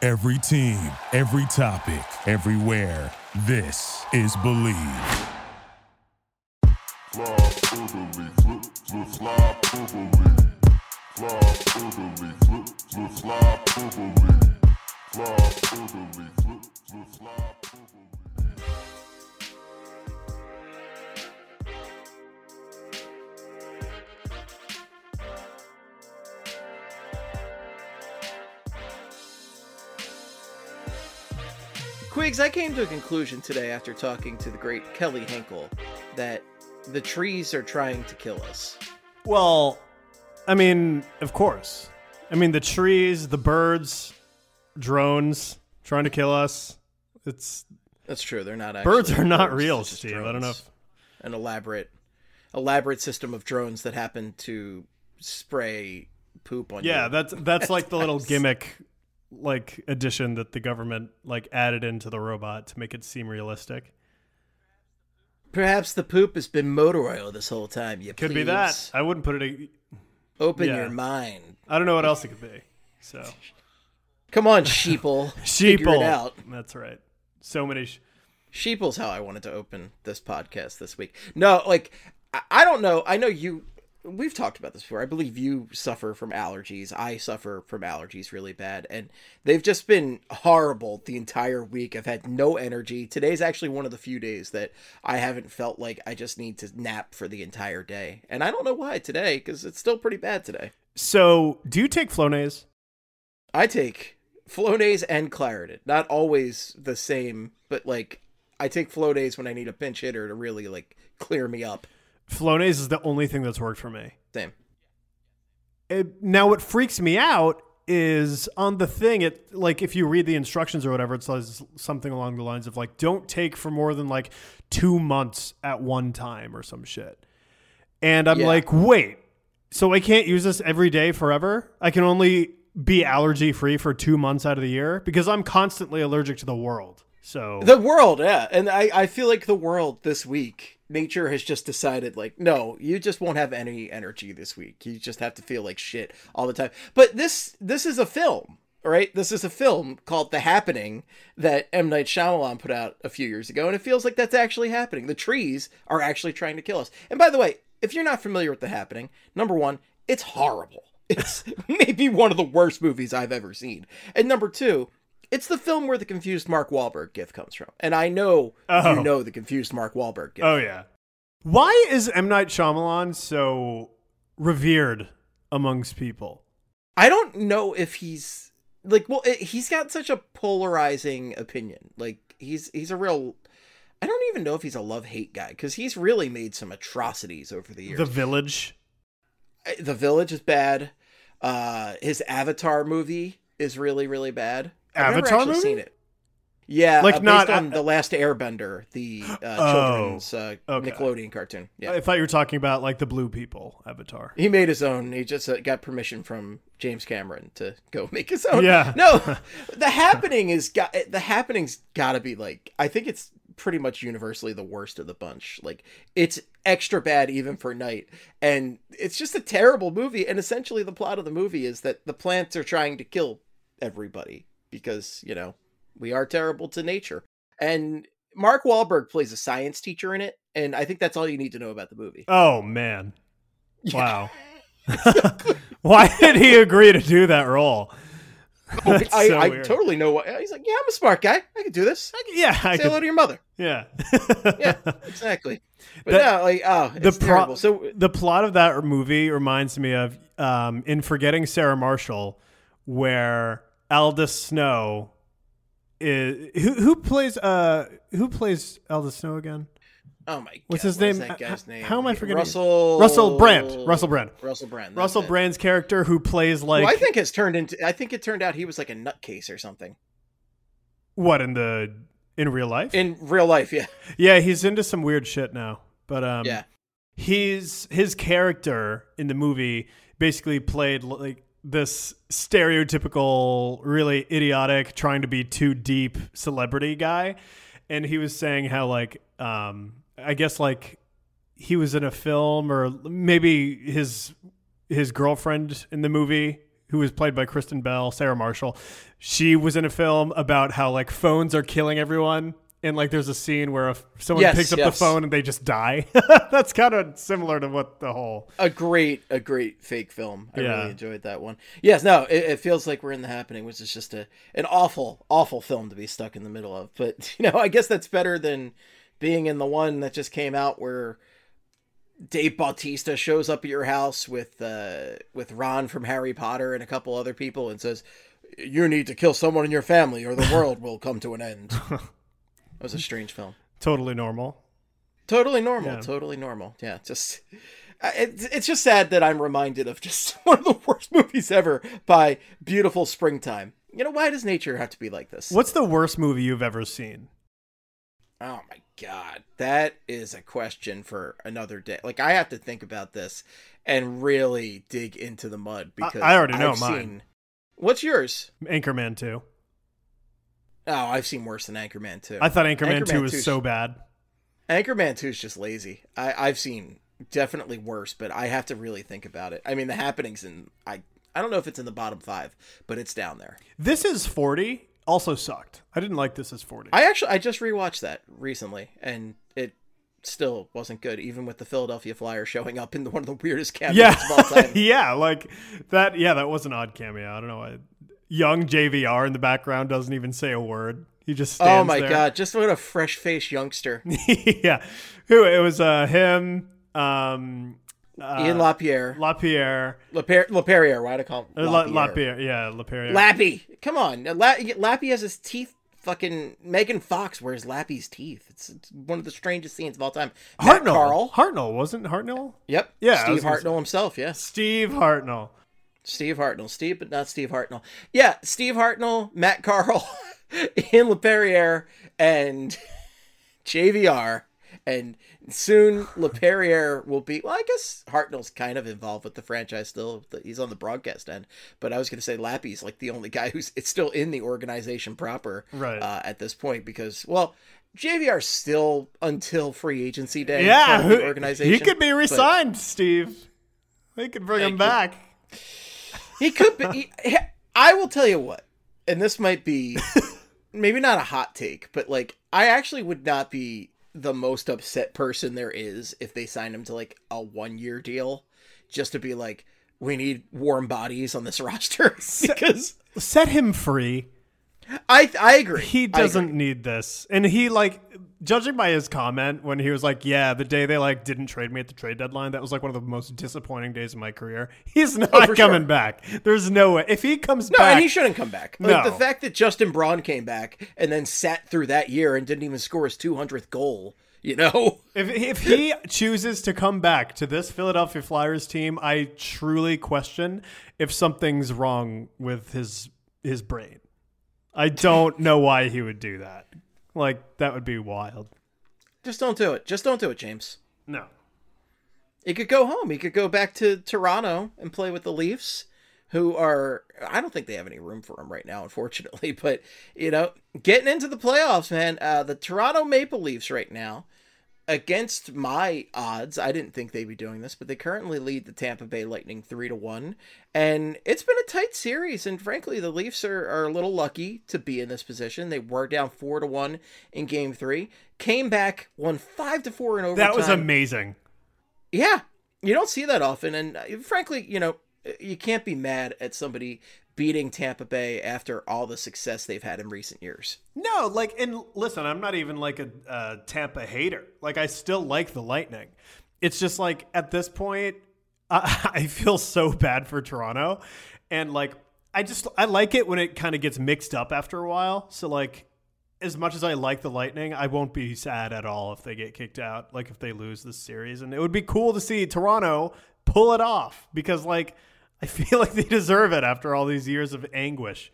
Every team, every topic, everywhere. This is Believe. Fly orderly, flip, fly orderly. Fly orderly, flip, fly orderly. Fly orderly, flip, fly orderly. Quigs, I came to a conclusion today after talking to the great Kelly Hinkle that the trees are trying to kill us. Well, I mean, of course. I mean, the trees, the birds, drones trying to kill us. That's true. They're not actually. Birds are not birds, real, it's just Steve. drones. I don't know if... An elaborate system of drones that happen to spray poop on you. Yeah, that's like the little gimmick like addition that the government like added into the robot to make it seem realistic. Perhaps the poop has been motor oil this whole time. You Could be that. I wouldn't put it. Open Yeah. your mind. I don't know what else it could be. So Come on, sheeple. Figure it out. That's right. So many. Sheeple's how I wanted to open this podcast this week. No, like, I don't know. I know you. We've talked about this before. I believe you suffer from allergies. I suffer from allergies really bad. And they've just been horrible the entire week. I've had no energy. Today's actually one of the few days that I haven't felt like I just need to nap for the entire day. And I don't know why today, because it's still pretty bad today. So, do you take Flonase? I take Flonase and Claritin. Not always the same, but like I take Flonase when I need a pinch hitter to really like clear me up. Flonase is the only thing that's worked for me. Same. Now, what freaks me out is on the thing, it like if you read the instructions or whatever, it says something along the lines of like, don't take for more than like 2 months at one time or some shit. And I'm like, wait, so I can't use this every day forever? I can only be allergy free for 2 months out of the year because I'm constantly allergic to the world. So The world, yeah. And I feel like the world this week, nature has just decided like, no, you just won't have any energy this week. You just have to feel like shit all the time. But this is a film, right? This is a film called The Happening that M. Night Shyamalan put out a few years ago. And it feels like that's actually happening. The trees are actually trying to kill us. And by the way, if you're not familiar with The Happening, number one, it's horrible. It's maybe one of the worst movies I've ever seen. And number two, it's the film where the confused Mark Wahlberg gif comes from. And I know you know the confused Mark Wahlberg gif. Oh, yeah. Why is M. Night Shyamalan so revered amongst people? I don't know if he's like, well, he's got such a polarizing opinion. Like he's a real, I don't even know if he's a love-hate guy because he's really made some atrocities over the years. The Village. The Village is bad. His Avatar movie is really, really bad. I've never actually seen it. Yeah, like based not on The Last Airbender, the children's Nickelodeon cartoon. Yeah, I thought you were talking about like the Blue People Avatar. he made his own. He just got permission from James Cameron to go make his own. Yeah. No, The Happening's got to be like, I think it's pretty much universally the worst of the bunch. Like it's extra bad even for Night, and it's just a terrible movie. And essentially, the plot of the movie is that the plants are trying to kill everybody because, you know, we are terrible to nature. And Mark Wahlberg plays a science teacher in it, and I think that's all you need to know about the movie. Oh, man. Wow. Why did he agree to do that role? I totally know what he's like. Yeah, I'm a smart guy. I can do this. Yeah, Say hello to your mother. Yeah. Yeah, exactly. But it's terrible. So the plot of that movie reminds me of in Forgetting Sarah Marshall, where Aldous Snow is who plays Aldous Snow again? Oh my god. What's his name? That guy's name? How am I forgetting? Russell Brand. Russell Brand's character who plays like I think it turned out he was like a nutcase or something. What in real life? In real life, yeah. Yeah, he's into some weird shit now. But yeah. his character in the movie basically played like this stereotypical, really idiotic, trying to be too deep celebrity guy. And he was saying how like I guess like he was in a film, or maybe his girlfriend in the movie who was played by Kristen Bell, Sarah Marshall. She was in a film about how like phones are killing everyone. And like there's a scene where if someone picks up the phone and they just die. That's kind of similar to what the whole... A great fake film. I really enjoyed that one. Yes, no, it feels like we're in The Happening, which is just an awful film to be stuck in the middle of. But, I guess that's better than being in the one that just came out where Dave Bautista shows up at your house with Ron from Harry Potter and a couple other people and says, "You need to kill someone in your family or the world will come to an end." It was a strange film. Totally normal. Totally normal. Yeah, just it's just sad that I'm reminded of just one of the worst movies ever by Beautiful Springtime. Why does nature have to be like this? What's the worst movie you've ever seen? Oh my God, that is a question for another day. Like I have to think about this and really dig into the mud because I already know mine. What's yours? Anchorman 2. Oh, I've seen worse than Anchorman 2. I thought Anchorman 2 was so bad. Anchorman 2 is just lazy. I've seen definitely worse, but I have to really think about it. I mean, The Happening's I don't know if it's in the bottom 5, but it's down there. This Is 40 also sucked. I didn't like This Is 40. I just rewatched that recently, and it still wasn't good, even with the Philadelphia Flyers showing up in one of the weirdest cameos of all time. Yeah, like that. Yeah, that was an odd cameo. I don't know why. Young JVR in the background doesn't even say a word. He just stands there. Oh my God, just what a fresh-faced youngster. Yeah. Who? It was him, Ian LaPierre. LaPerriere, why do I call him LaPierre? Yeah, LaPierre. Lappy. Come on. Lappy has his teeth. Fucking Megan Fox wears Lappy's teeth. It's one of the strangest scenes of all time. Hartnell, wasn't Hartnell? Yep. Yeah. Steve Hartnell himself, yeah. Steve Hartnell. Steve, but not Steve Hartnell. Yeah, Steve Hartnell, Matt Carl, Ian LaPerriere, and JVR. And soon LaPerriere will be, well, I guess Hartnell's kind of involved with the franchise still. He's on the broadcast end. But I was going to say Lappy's like the only guy it's still in the organization proper at this point because, well, JVR's still until free agency day. Yeah, the organization. He could be re-signed, Steve. They could bring him back. He could be. I will tell you what, and this might be maybe not a hot take, but like I actually would not be the most upset person there is if they signed him to like a 1-year deal just to be like, we need warm bodies on this roster because set him free. I agree. He doesn't need this. And he like, judging by his comment when he was like, yeah, the day they like didn't trade me at the trade deadline, that was like one of the most disappointing days of my career. He's not coming back. There's no way. If he comes back. No, and he shouldn't come back. Like, no. The fact that Justin Braun came back and then sat through that year and didn't even score his 200th goal, If he chooses to come back to this Philadelphia Flyers team, I truly question if something's wrong with his brain. I don't know why he would do that. Like, that would be wild. Just don't do it. Just don't do it, James. No. He could go home. He could go back to Toronto and play with the Leafs, who are, I don't think they have any room for him right now, unfortunately. But, getting into the playoffs, man, the Toronto Maple Leafs right now, against my odds, I didn't think they'd be doing this, but they currently lead the Tampa Bay Lightning 3-1. And it's been a tight series. And frankly, the Leafs are a little lucky to be in this position. They were down 4-1 in game 3, came back, won 5-4 in overtime. That was amazing. Yeah. You don't see that often. And frankly, you can't be mad at somebody beating Tampa Bay after all the success they've had in recent years. No, like, and listen, I'm not even like a Tampa hater. Like, I still like the Lightning. It's just like at this point, I feel so bad for Toronto. And like, I like it when it kind of gets mixed up after a while. So like, as much as I like the Lightning, I won't be sad at all if they get kicked out, like if they lose this series. And it would be cool to see Toronto pull it off because like, I feel like they deserve it after all these years of anguish.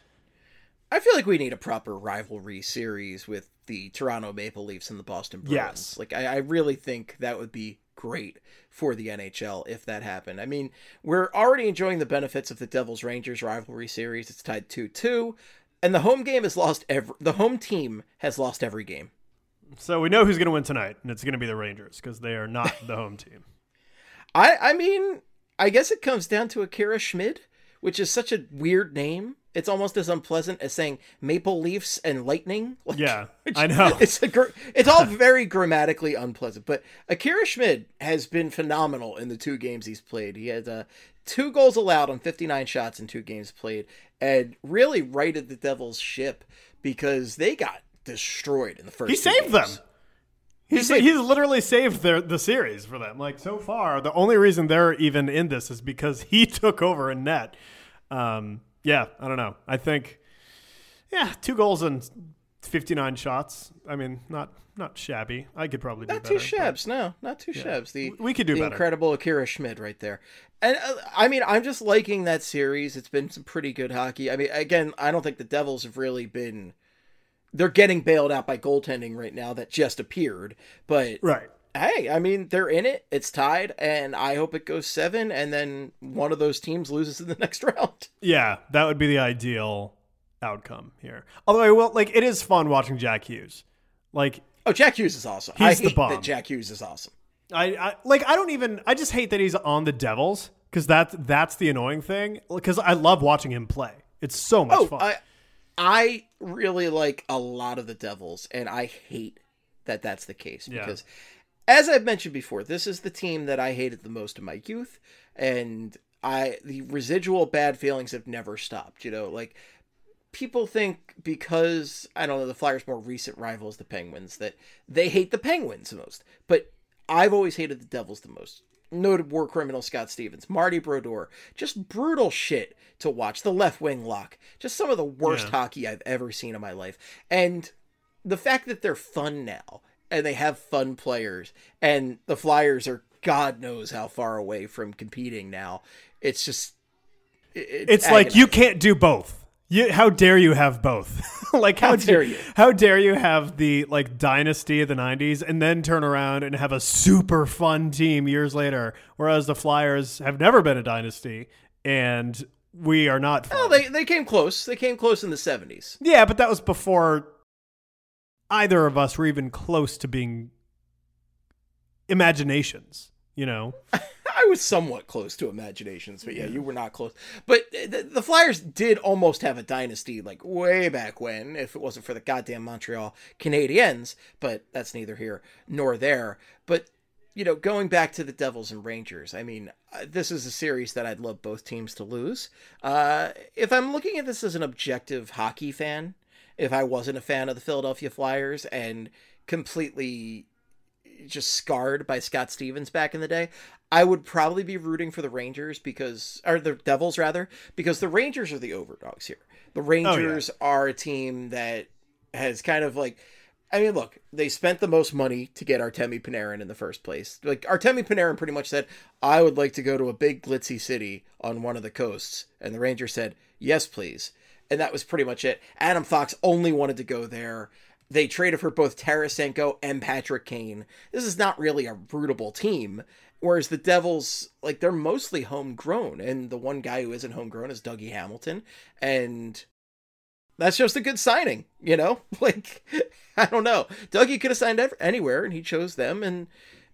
I feel like we need a proper rivalry series with the Toronto Maple Leafs and the Boston Bruins. Yes. Like, I really think that would be great for the NHL if that happened. I mean, we're already enjoying the benefits of the Devils Rangers rivalry series. It's tied 2-2, and the home team has lost every game. So we know who's going to win tonight, and it's going to be the Rangers because they are not the home team. I mean, I guess it comes down to Akira Schmid, which is such a weird name. It's almost as unpleasant as saying Maple Leafs and Lightning. Like, Yeah, I know. It's all very grammatically unpleasant. But Akira Schmid has been phenomenal in the 2 games he's played. He had 2 goals allowed on 59 shots in 2 games played, and really righted the Devils' ship because they got destroyed in the first. He saved games. them. He's literally saved the series for them. Like, so far, the only reason they're even in this is because he took over in net. Yeah, I don't know. I think, 2 goals and 59 shots. I mean, not shabby. I could probably do not better. Not too shabs, no. Not too shabs. We could do the better. Incredible Akira Schmid right there. And, I mean, I'm just liking that series. It's been some pretty good hockey. I mean, again, I don't think the Devils have really been... They're getting bailed out by goaltending right now that just appeared. But, right. Hey, I mean, they're in it. It's tied, and I hope it goes 7, and then one of those teams loses in the next round. Yeah, that would be the ideal outcome here. Although I will, like, it is fun watching Jack Hughes. Like, oh, Jack Hughes is awesome. He's I the hate bomb. that Jack Hughes is awesome. I just hate that he's on the Devils because that's the annoying thing. Because I love watching him play. It's so much fun. I really like a lot of the Devils, and I hate that that's the case because, as I've mentioned before, this is the team that I hated the most in my youth, and the residual bad feelings have never stopped. You know, like, people think because, I don't know, the Flyers' more recent rivals, the Penguins, that they hate the Penguins the most, but I've always hated the Devils the most. Noted war criminal Scott Stevens, Marty Brodeur, just brutal shit to watch. The left wing lock, just some of the worst hockey I've ever seen in my life. And the fact that they're fun now and they have fun players and the Flyers are God knows how far away from competing now. It's just, it's like you can't do both. How dare you have both? Like, how dare you? How dare you have the, like, dynasty of the 90s and then turn around and have a super fun team years later, whereas the Flyers have never been a dynasty and we are not fun. Oh, they came close. They came close in the 70s. Yeah, but that was before either of us were even close to being imaginations, you know? I was somewhat close to imaginations, but you were not close. But the Flyers did almost have a dynasty, like, way back when, if it wasn't for the goddamn Montreal Canadiens, but that's neither here nor there. But, you know, going back to the Devils and Rangers, I mean, this is a series that I'd love both teams to lose. If I'm looking at this as an objective hockey fan, if I wasn't a fan of the Philadelphia Flyers and completely just scarred by Scott Stevens back in the day, I would probably be rooting for the Rangers or the Devils rather, because the Rangers are the overdogs here. The Rangers are a team that has kind of like, I mean, look, they spent the most money to get Artemi Panarin in the first place. Like, Artemi Panarin pretty much said, I would like to go to a big glitzy city on one of the coasts. And the Rangers said, yes, please. And that was pretty much it. Adam Fox only wanted to go there. They traded for both Tarasenko and Patrick Kane. This is not really a rootable team. Whereas the Devils, like, they're mostly homegrown. And the one guy who isn't homegrown is Dougie Hamilton. And that's just a good signing, you know? Like, I don't know. Dougie could have signed anywhere, and he chose them. And,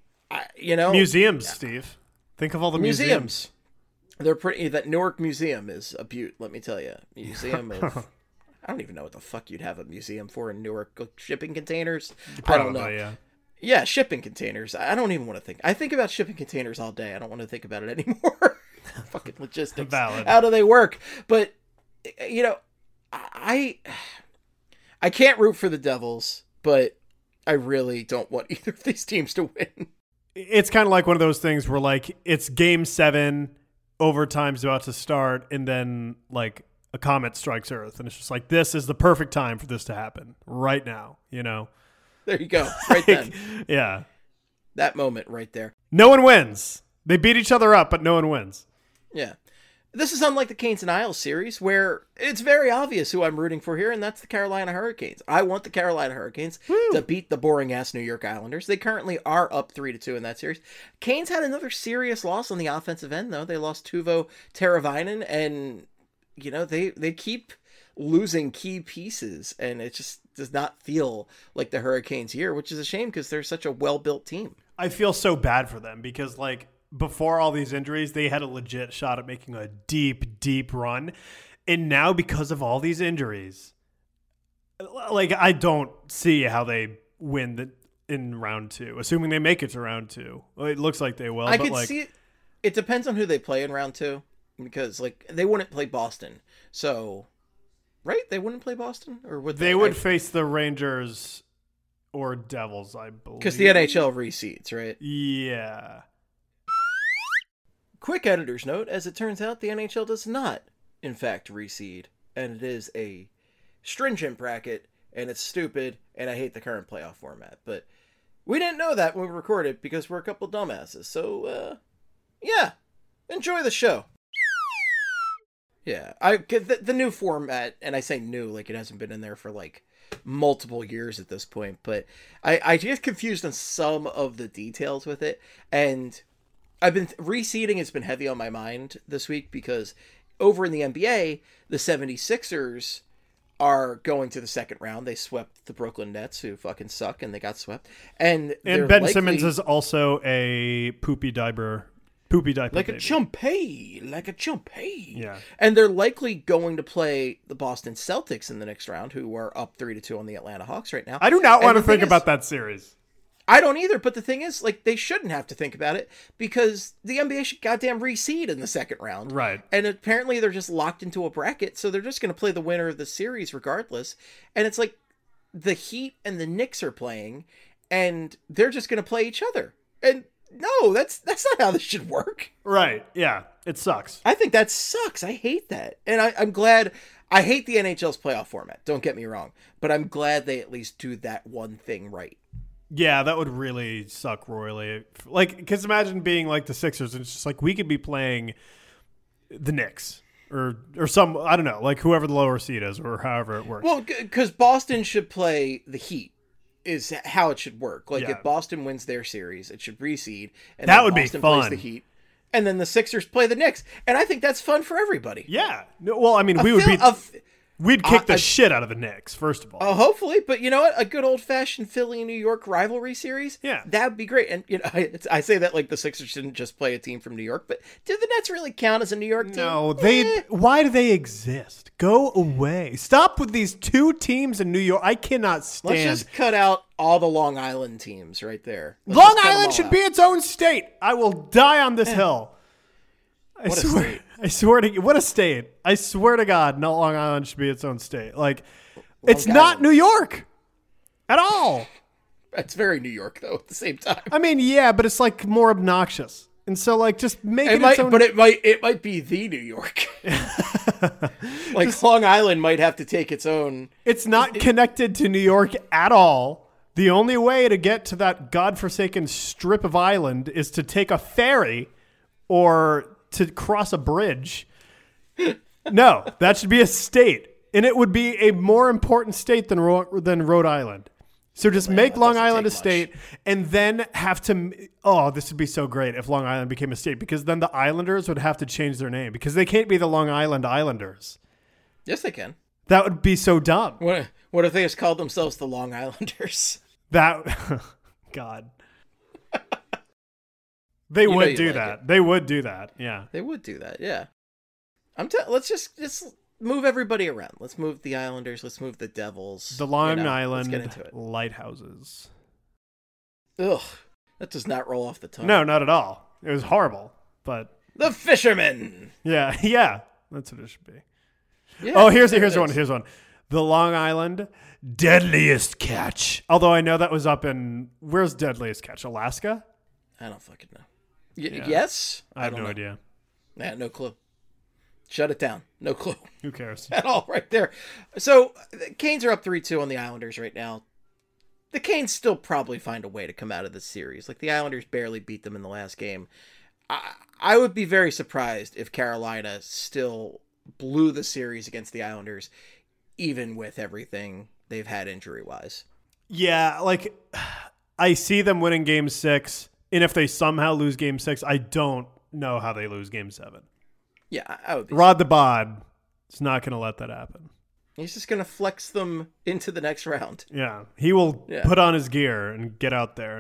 you know. Museums, Steve. Think of all the museums. They're pretty. That Newark Museum is a beaut, let me tell you. Museum of... I don't even know what the fuck you'd have a museum for in Newark. Shipping containers? Probably, I don't know. Yeah. Yeah, shipping containers. I don't even want to think. I think about shipping containers all day. I don't want to think about it anymore. Fucking logistics. Valid. How do they work? But, you know, I can't root for the Devils, but I really don't want either of these teams to win. It's kind of like one of those things where, like, it's game 7, overtime's about to start, and then, like, a comet strikes Earth, and it's just like, this is the perfect time for this to happen right now, you know? There you go. Right then. Yeah. That moment right there. No one wins. They beat each other up, but no one wins. Yeah. This is unlike the Canes and Isles series, where it's very obvious who I'm rooting for here, and that's the Carolina Hurricanes. I want the Carolina Hurricanes to beat the boring-ass New York Islanders. They currently are up 3-2 in that series. Canes had another serious loss on the offensive end, though. They lost Teuvo Teravainen, and, you know, they keep losing key pieces, and it just does not feel like the Hurricanes year, which is a shame because they're such a well-built team. I feel so bad for them because, like, before all these injuries, they had a legit shot at making a deep, deep run. And now because of all these injuries, like I don't see how they win in round 2, assuming they make it to round 2. Well, it looks like they will. I but could like, see it. It depends on who they play in round 2, because like they wouldn't play Boston. So, right? They wouldn't play Boston, or would they? They would face the Rangers or Devils, I believe. Because the NHL reseeds, right? Yeah. Quick editor's note: as it turns out, the NHL does not, in fact, reseed, and it is a stringent bracket, and it's stupid, and I hate the current playoff format. But we didn't know that when we recorded because we're a couple dumbasses. So, yeah, enjoy the show. Yeah, the new format, and I say new like it hasn't been in there for like multiple years at this point, but I get confused on some of the details with it, and I've been reseeding has been heavy on my mind this week because over in the NBA, the 76ers are going to the second round. They swept the Brooklyn Nets, who fucking suck, and they got swept. And Ben Simmons is also a poopy diaper like baby. a chumpy. Yeah. And they're likely going to play the Boston Celtics in the next round, who are up 3-2 on the Atlanta Hawks right now. I do not want to think about that series. I don't either, but the thing is, like, they shouldn't have to think about it because the NBA should goddamn reseed in the second round. Right. And apparently they're just locked into a bracket, so they're just going to play the winner of the series regardless. And it's like the Heat and the Knicks are playing, and they're just going to play each other. And no, that's not how this should work. Right. Yeah. It sucks. I think that sucks. I hate that. And I'm glad. I hate the NHL's playoff format. Don't get me wrong. But I'm glad they at least do that one thing right. Yeah, that would really suck royally. Like, because imagine being like the Sixers, and it's just like we could be playing the Knicks or some, I don't know, like whoever the lower seed is or however it works. Well, because Boston should play the Heat is how it should work. Like, if Boston wins their series, it should reseed. And that then would Boston be fun. Plays the Heat. And then the Sixers play the Knicks. And I think that's fun for everybody. Yeah. No, well, I mean, we'd kick the shit out of the Knicks, first of all. Hopefully, but you know what? A good old-fashioned Philly-New York rivalry series? Yeah. That would be great. And, you know, I say that like the Sixers shouldn't just play a team from New York, but do the Nets really count as a New York team? No, why do they exist? Go away. Stop with these two teams in New York. I cannot stand. Let's just cut out all the Long Island teams right there. Long Island should be its own state. I will die on this hill. I swear to what a state. I swear to God, no, Long Island should be its own state. Like, it's not New York at all. It's very New York though. At the same time, I mean, yeah, but it's like more obnoxious, and so like just make it its own. But it might be the New York. Like Long Island might have to take its own. It's not connected to New York at all. The only way to get to that godforsaken strip of island is to take a ferry or to cross a bridge. No, that should be a state, and it would be a more important state than Rhode Island. So just make Long Island a state, and then have to. Oh, this would be so great if Long Island became a state, because then the Islanders would have to change their name because they can't be the Long Island Islanders. Yes, they can. That would be so dumb. What if they just called themselves the Long Islanders? That God. They would do that. They would do that. Yeah. They would do that. Yeah. Let's just move everybody around. Let's move the Islanders. Let's move the Devils. The Long Island let's get into it. Lighthouses. Ugh. That does not roll off the tongue. No, not at all. It was horrible, but the Fishermen. Yeah. That's what it should be. Yeah, oh, here's one. Here's one. The Long Island Deadliest Catch. Although I know that was up in where's Deadliest Catch? Alaska? I don't fucking know. Yes? I have no idea. Yeah, no clue. Shut it down. No clue. Who cares? At all right there. So, the Canes are up 3-2 on the Islanders right now. The Canes still probably find a way to come out of this series. Like, the Islanders barely beat them in the last game. I would be very surprised if Carolina still blew the series against the Islanders, even with everything they've had injury-wise. Yeah, like, I see them winning Game 6. And if they somehow lose Game 6, I don't know how they lose Game 7. Yeah, I would be. Rod the Bod is not going to let that happen. He's just going to flex them into the next round. Yeah, he will put on his gear and get out there and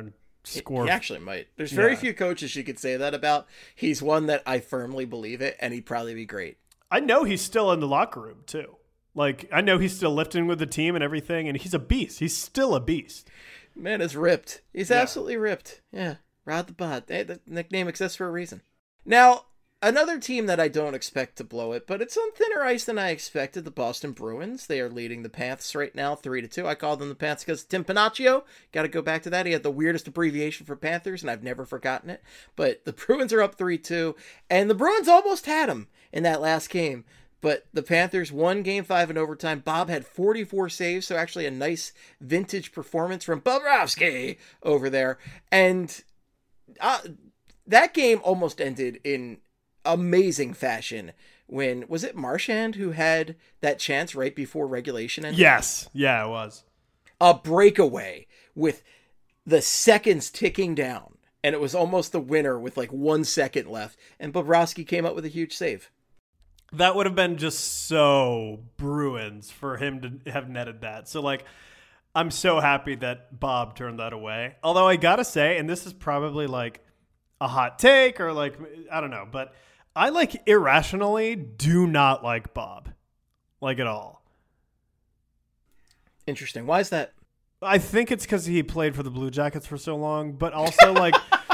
score. He actually might. There's very Yeah. few coaches you could say that about. He's one that I firmly believe it, and he'd probably be great. I know he's still in the locker room too. Like, I know he's still lifting with the team and everything, and he's a beast. He's still a beast. Man is ripped. He's Yeah. absolutely ripped. Yeah, Rod the Bod. Hey, the nickname exists for a reason. Now, another team that I don't expect to blow it, but it's on thinner ice than I expected, the Boston Bruins. They are leading the Panthers right now, 3-2. I call them the Panthers because Tim Panaccio. Got to go back to that. He had the weirdest abbreviation for Panthers, and I've never forgotten it. But the Bruins are up 3-2, and the Bruins almost had him in that last game. But the Panthers won Game 5 in overtime. Bob had 44 saves, so actually a nice vintage performance from Bobrovsky over there. And that game almost ended in amazing fashion when, was it Marchand who had that chance right before regulation ended? Yes. Yeah, it was. A breakaway with the seconds ticking down. And it was almost the winner with like 1 second left. And Bobrovsky came up with a huge save. That would have been just so Bruins for him to have netted that. So, like, I'm so happy that Bob turned that away. Although I gotta say, and this is probably like a hot take or like, I don't know, but I like irrationally do not like Bob. Like at all. Interesting. Why is that? I think it's because he played for the Blue Jackets for so long, but also like,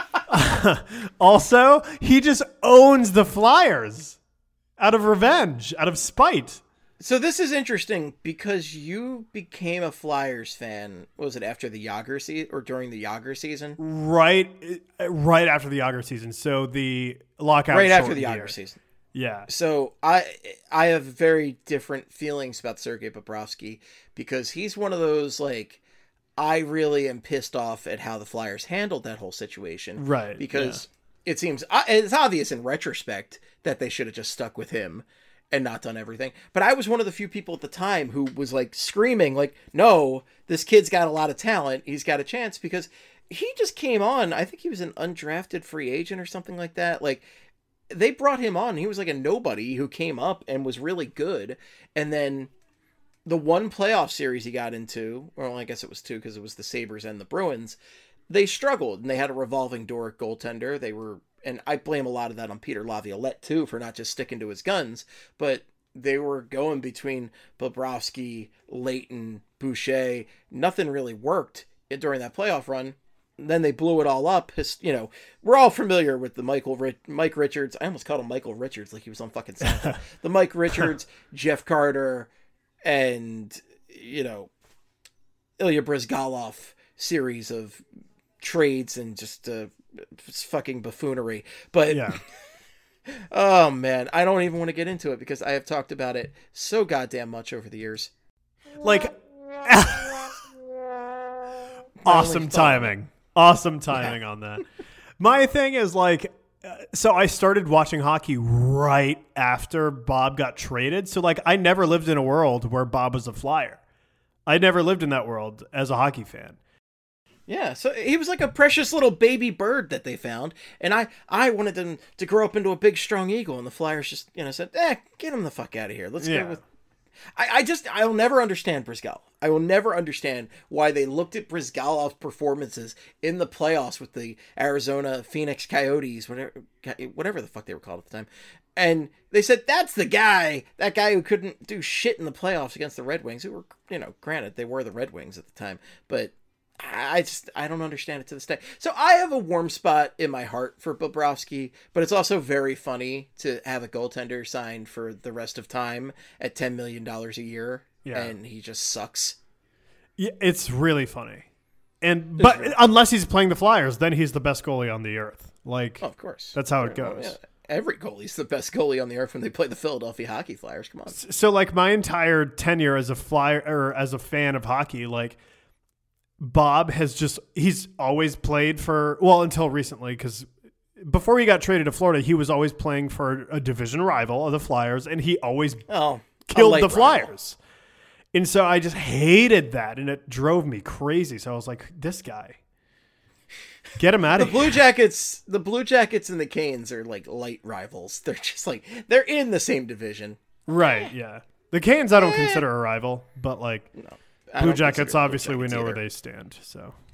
also he just owns the Flyers. Out of revenge, out of spite. So this is interesting because you became a Flyers fan, was it after the Yager season or during the Yager season? Right after the Yager season. So the lockout. Right after the shortened Yager year. season. Yeah. So I have very different feelings about Sergei Bobrovsky because he's one of those, like, I really am pissed off at how the Flyers handled that whole situation. Right. Because it seems, it's obvious in retrospect that they should have just stuck with him and not done everything. But I was one of the few people at the time who was like screaming, like, no, this kid's got a lot of talent. He's got a chance, because he just came on. I think he was an undrafted free agent or something like that. Like, they brought him on. He was like a nobody who came up and was really good. And then the one playoff series he got into, well, I guess it was two because it was the Sabres and the Bruins, they struggled and they had a revolving door at goaltender. They were, and I blame a lot of that on Peter Laviolette too for not just sticking to his guns, but they were going between Bobrovsky, Leighton, Boucher. Nothing really worked during that playoff run. Then they blew it all up. We're all familiar with the Mike Richards. I almost called him Michael Richards like he was on fucking Seinfeld. The Mike Richards, Jeff Carter, and, Ilya Bryzgalov series of trades and just fucking buffoonery. But Yeah. oh man, I don't even want to get into it because I have talked about it so goddamn much over the years. Like, My awesome only thought- timing. Awesome timing on that. My thing is like, so I started watching hockey right after Bob got traded. So like, I never lived in a world where Bob was a Flyer. I never lived in that world as a hockey fan. Yeah, so he was like a precious little baby bird that they found, and I wanted them to grow up into a big, strong eagle, and the Flyers just, said, get him the fuck out of here. Let's go with... I'll never understand Bryzgalov. I will never understand why they looked at Bryzgalov's performances in the playoffs with the Arizona Phoenix Coyotes, whatever the fuck they were called at the time, and they said, that's that guy who couldn't do shit in the playoffs against the Red Wings, who were, granted, they were the Red Wings at the time, but I don't understand it to this day. So I have a warm spot in my heart for Bobrovsky, but it's also very funny to have a goaltender signed for the rest of time at $10 million a year, and he just sucks. Yeah, it's really funny. But unless he's playing the Flyers, then he's the best goalie on the earth. Like, Oh, of course. that's how it goes. Yeah. Every goalie's the best goalie on the earth when they play the Philadelphia Hockey Flyers. Come on. So like my entire tenure as a Flyer or as a fan of hockey, like Bob he's always played for, well, until recently, because before he got traded to Florida, he was always playing for a division rival of the Flyers, and he always killed the Flyers. And so I just hated that, and it drove me crazy. So I was like, this guy, get him out of here. The Blue Jackets and the Canes are like light rivals. They're just like, they're in the same division. Right, yeah. The Canes I don't consider a rival, but like No. Blue Jackets, obviously we know where they stand. So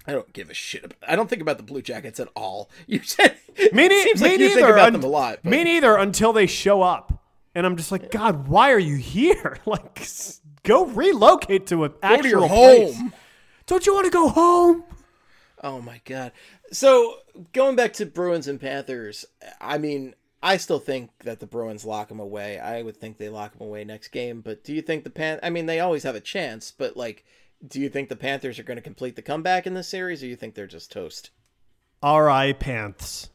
I don't give a shit. I don't think about the Blue Jackets at all. You said Seems like you think about them a lot. But. Me neither until they show up. And I'm just like, God, why are you here? Like, go relocate to an actual go to your place. home. Don't you want to go home? Oh, my God. So, going back to Bruins and Panthers, I mean, I still think that the Bruins lock them away. I would think they lock them away next game. But do you think I mean, they always have a chance, but, like, do you think the Panthers are going to complete the comeback in this series, or you think they're just toast? R.I. Panths.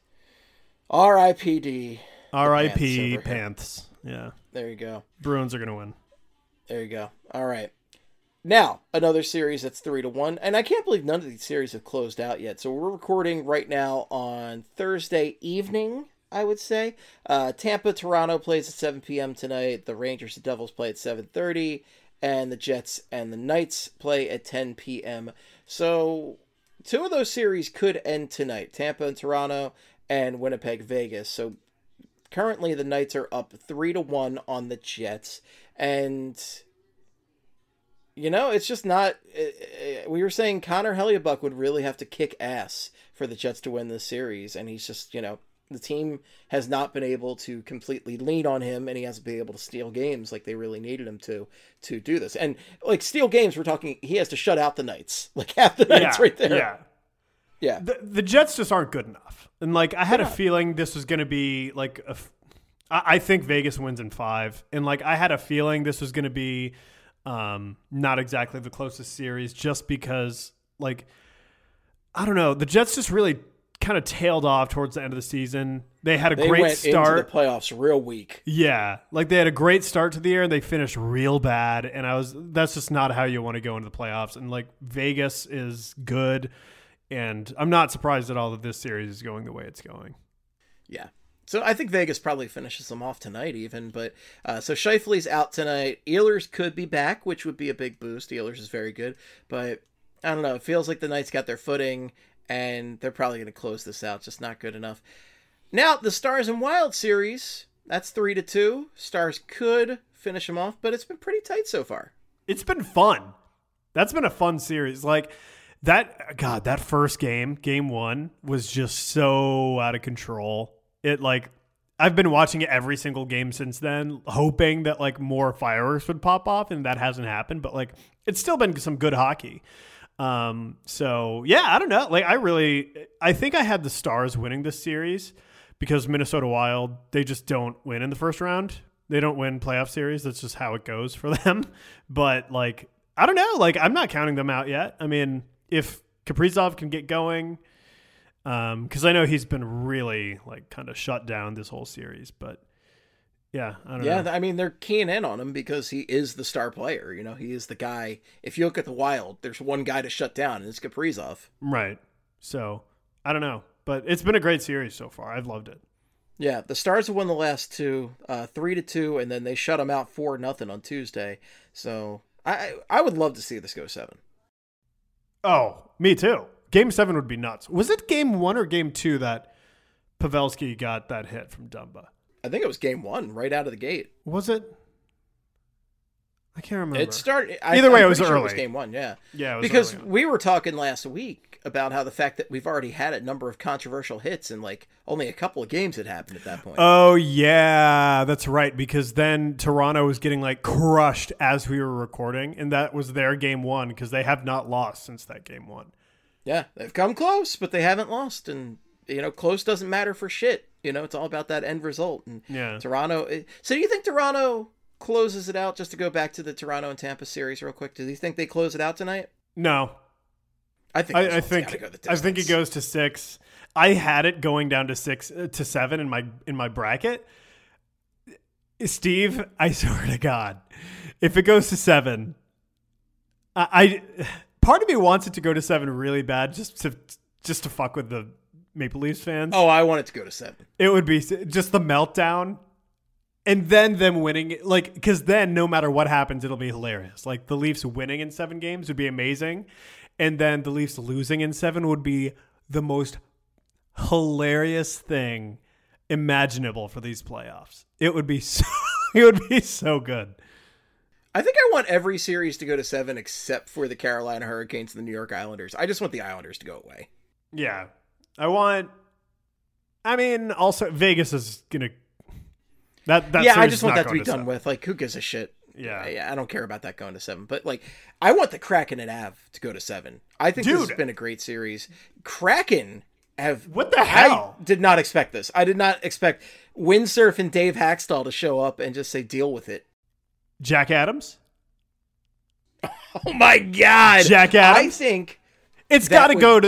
R.I.P.D. R.I.P. Panths. Yeah. There you go. Bruins are going to win. There you go. All right. Now, another series that's 3-1. And I can't believe none of these series have closed out yet. So we're recording right now on Thursday evening, I would say. Tampa-Toronto plays at 7 p.m. tonight. The Rangers and Devils play at 7:30. And the Jets and the Knights play at 10 p.m. So 2 of those series could end tonight. Tampa and Toronto and Winnipeg, Vegas. So currently the Knights are up 3-1 on the Jets. And, you know, it's just not... we were saying Connor Hellebuyck would really have to kick ass for the Jets to win this series. And he's just, you know... The team has not been able to completely lean on him, and he hasn't been able to steal games like they really needed him to do this. And, like, steal games, we're talking, he has to shut out the Knights. Like, half the Knights right there. Yeah. Yeah. The Jets just aren't good enough. And, like, I had a feeling this was going to be, like, I think Vegas wins in 5. And, like, I had a feeling this was going to be not exactly the closest series just because, like, I don't know. The Jets just really kind of tailed off towards the end of the season. They had a great start. Into the playoffs real weak. Yeah, like they had a great start to the year and they finished real bad. And that's just not how you want to go into the playoffs. And like Vegas is good, and I'm not surprised at all that this series is going the way it's going. Yeah. So I think Vegas probably finishes them off tonight even, but so Scheifele's out tonight. Ehlers could be back, which would be a big boost. Ehlers is very good, but I don't know. It feels like the Knights got their footing, and they're probably going to close this out. Just not good enough. Now, the Stars and Wild series, that's 3-2. Stars could finish them off, but it's been pretty tight so far. It's been fun. That's been a fun series. Like, that first game 1, was just so out of control. I've been watching it every single game since then, hoping that, like, more fireworks would pop off, and that hasn't happened. But, like, it's still been some good hockey. So yeah, I don't know. Like I think I had the Stars winning this series because Minnesota Wild, they just don't win in the first round. They don't win playoff series. That's just how it goes for them. But like, I don't know. Like I'm not counting them out yet. I mean, if Kaprizov can get going, cause I know he's been really like kind of shut down this whole series, but yeah, I don't know. Yeah, I mean, they're keying in on him because he is the star player. You know, he is the guy. If you look at the Wild, there's one guy to shut down, and it's Kaprizov. Right. So, I don't know. But it's been a great series so far. I've loved it. Yeah, the Stars have won the last 2, 3-2, and then they shut them out 4-0 on Tuesday. So, I would love to see this go 7. Oh, me too. Game 7 would be nuts. Was it game 1 or game 2 that Pavelski got that hit from Dumba? I think it was game 1, right out of the gate. Was it? I can't remember. It started. Either way, it was early. Sure it was game 1, yeah. Yeah, it was because early. We were talking last week about how the fact that we've already had a number of controversial hits and like only a couple of games had happened at that point. Oh yeah, that's right. Because then Toronto was getting like crushed as we were recording, and that was their game 1 because they have not lost since that game 1. Yeah, they've come close, but they haven't lost, and you know, close doesn't matter for shit. You know, it's all about that end result. And yeah. Toronto. So do you think Toronto closes it out? Just to go back to the Toronto and Tampa series real quick. Do you think they close it out tonight? No. I think it goes to 6. I had it going down to 6 to 7 in my bracket. Steve, I swear to God, if it goes to 7, I part of me wants it to go to 7 really bad just to fuck with the Maple Leafs fans. Oh, I want it to go to 7. It would be just the meltdown. And then them winning, like, because then no matter what happens, it'll be hilarious. Like, the Leafs winning in 7 games would be amazing. And then the Leafs losing in 7 would be the most hilarious thing imaginable for these playoffs. It would be so good. I think I want every series to go to 7 except for the Carolina Hurricanes and the New York Islanders. I just want the Islanders to go away. Yeah. Also Vegas is going to I just want that to be done with. Like, who gives a shit? Yeah. I don't care about that going to 7. But, like, I want the Kraken and Av to go to 7. I think this has been a great series. Kraken have... What the hell? I did not expect this. I did not expect Windsurf and Dave Haxtell to show up and just say, deal with it. Jack Adams? Oh, my God. Jack Adams? I think... It's got to go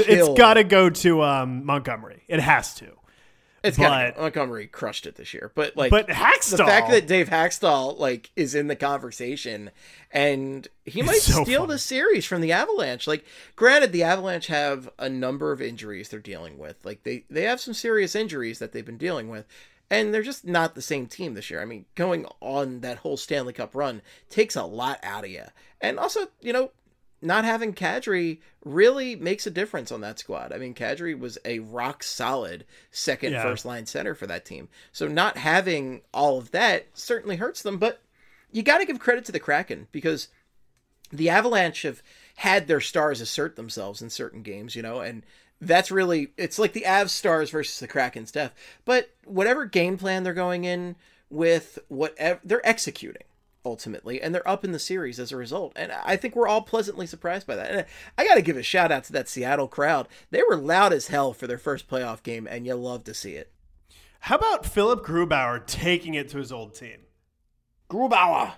to Montgomery. It has to. Montgomery crushed it this year, but Haxtell, the fact that Dave Haxtell is in the conversation and he might steal the series from the Avalanche. Like, granted, the Avalanche have a number of injuries they're dealing with. Like they have some serious injuries that they've been dealing with, and they're just not the same team this year. I mean, going on that whole Stanley Cup run takes a lot out of you, and also not having Kadri really makes a difference on that squad. I mean, Kadri was a rock solid first line center for that team. So not having all of that certainly hurts them, but you got to give credit to the Kraken because the Avalanche have had their stars assert themselves in certain games, and that's really, it's like the Avs stars versus the Kraken's depth. But whatever game plan they're going in with, whatever they're executing. Ultimately, and they're up in the series as a result, and I think we're all pleasantly surprised by that. And I got to give a shout out to that Seattle crowd. They were loud as hell for their first playoff game, and you love to see it. How about Philip Grubauer taking it to his old team? Grubauer,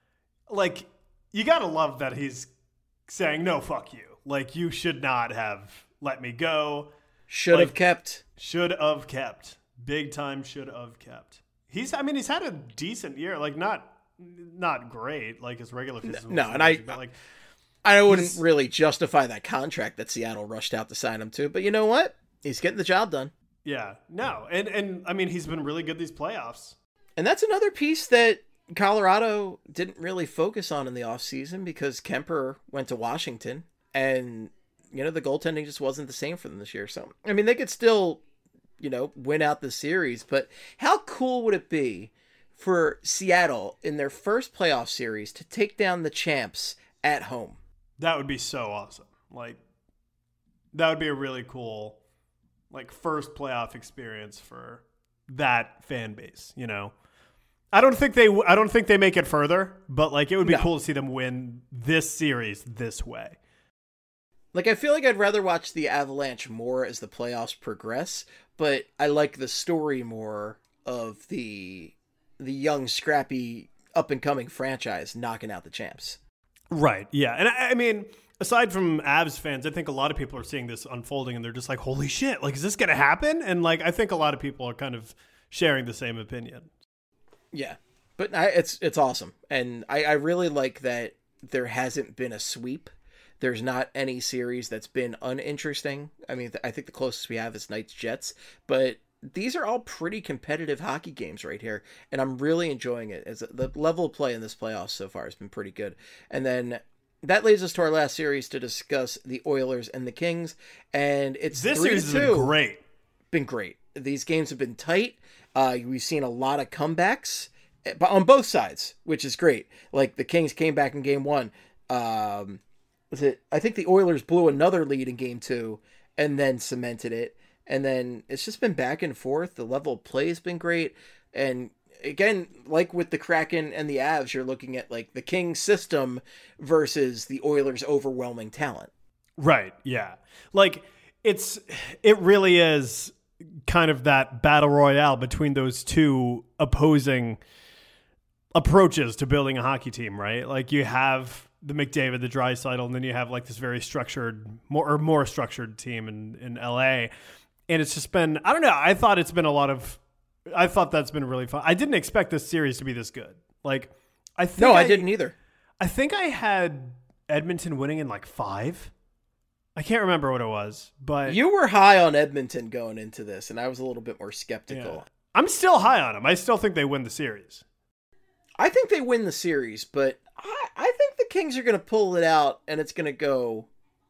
you got to love that he's saying no, fuck you. Like, you should not have let me go. Should have kept. Big time should have kept. He's had a decent year. Not great like his regular season. No, and I wouldn't really justify that contract that Seattle rushed out to sign him to, but you know what? He's getting the job done. Yeah, no, and he's been really good these playoffs. And that's another piece that Colorado didn't really focus on in the offseason because Kemper went to Washington, and the goaltending just wasn't the same for them this year. So I mean, they could still win out the series, but how cool would it be for Seattle in their first playoff series to take down the champs at home? That would be so awesome. That would be a really cool, first playoff experience for that fan base. I don't think they make it further, but it would be cool to see them win this series this way. I feel like I'd rather watch the Avalanche more as the playoffs progress, but I like the story more of the young, scrappy, up-and-coming franchise knocking out the champs. Right, yeah. And I mean, aside from Avs fans, I think a lot of people are seeing this unfolding and they're just like, holy shit, is this going to happen? And, I think a lot of people are kind of sharing the same opinion. Yeah, but it's awesome. And I really like that there hasn't been a sweep. There's not any series that's been uninteresting. I mean, I think the closest we have is Knights-Jets, but these are all pretty competitive hockey games right here, and I'm really enjoying it. As the level of play in this playoffs so far has been pretty good. And then that leads us to our last series to discuss the Oilers and the Kings, and it's this series has been great. These games have been tight. We've seen a lot of comebacks on both sides, which is great. The Kings came back in game 1. I think the Oilers blew another lead in game 2 and then cemented it. And then it's just been back and forth. The level of play has been great. And again, with the Kraken and the Avs, you're looking at the Kings system versus the Oilers' overwhelming talent. Right. Yeah. It really is kind of that battle royale between those two opposing approaches to building a hockey team, right? You have the McDavid, the Draisaitl, and then you have this very structured, more structured team in LA. And it's just been, I don't know. I thought that's been really fun. I didn't expect this series to be this good. I didn't either. I think I had Edmonton winning in 5. I can't remember what it was, but you were high on Edmonton going into this, and I was a little bit more skeptical. Yeah. I'm still high on them. I still think they win the series. I think they win the series, but I think the Kings are going to pull it out, and it's going to go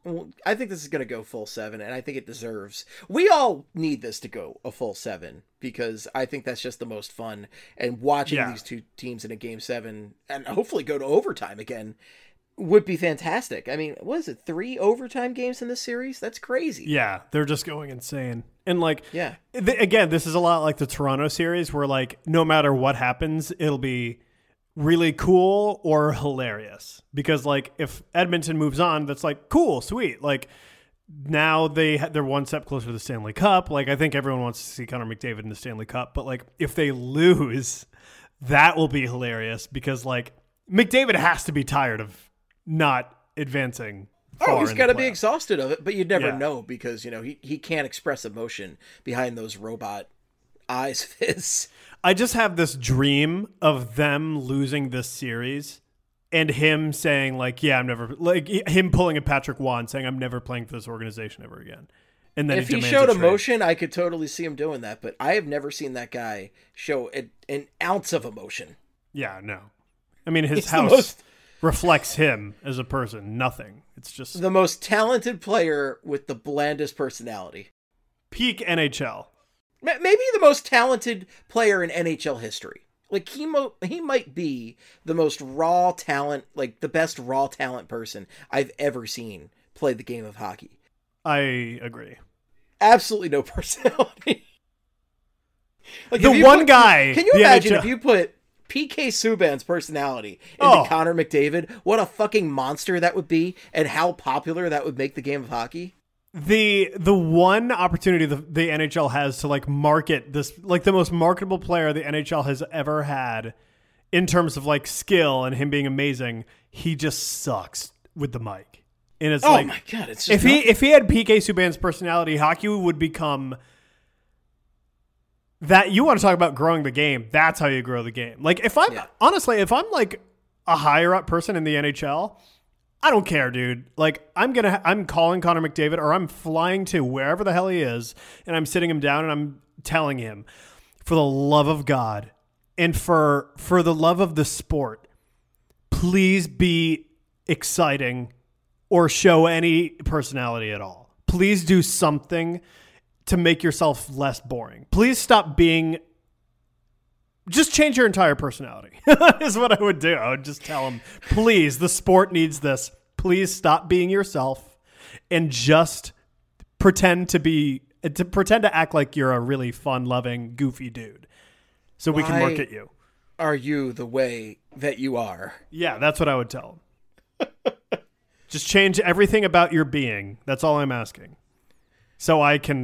I think this is going to go full 7, and I think it deserves. We all need this to go a full 7 because I think that's just the most fun. And watching these two teams in a game 7 and hopefully go to overtime again would be fantastic. I mean, what is it? 3 overtime games in this series? That's crazy. Yeah, they're just going insane. And like, yeah, again, this is a lot like the Toronto series where like no matter what happens, it'll be really cool or hilarious, because like if Edmonton moves on, that's like cool, sweet, like now they're one step closer to the Stanley Cup. Like I think everyone wants to see Connor McDavid in the Stanley Cup, but like if they lose, that will be hilarious because like McDavid has to be tired of not advancing. He's got to be exhausted of it, but you'd never know because he can't express emotion behind those robot eyes of his. I just have this dream of them losing this series and him saying like, yeah, I'm never, like him pulling a Patrick Waugh saying I'm never playing for this organization ever again. And then if he showed emotion, I could totally see him doing that, but I have never seen that guy show an ounce of emotion. Yeah, no. I mean, his house reflects him as a person. Nothing. It's just the most talented player with the blandest personality. Peak NHL. Maybe the most talented player in NHL history. Like he might be the most raw talent, like the best raw talent person I've ever seen play the game of hockey. I agree. Absolutely no personality. Like the one guy. Can you imagine if you put PK Subban's personality into Connor McDavid? What a fucking monster that would be, and how popular that would make the game of hockey. The one opportunity the NHL has to like market this, like the most marketable player the NHL has ever had in terms of like skill and him being amazing, he just sucks with the mic. And it's like, my God, it's just if he had PK Subban's personality, hockey would become that. You want to talk about growing the game? That's how you grow the game. Like if I'm honestly, if I'm like a higher up person in the NHL, I don't care, dude. Like I'm calling Connor McDavid, or I'm flying to wherever the hell he is, and I'm sitting him down and I'm telling him, for the love of God and for the love of the sport, please be exciting or show any personality at all. Please do something to make yourself less boring. Please stop being. Just change your entire personality is what I would do. I would just tell him, please, the sport needs this. Please stop being yourself and just pretend to act like you're a really fun, loving, goofy dude so we can market you. Are you the way that you are? Yeah, that's what I would tell him. Just change everything about your being. That's all I'm asking. So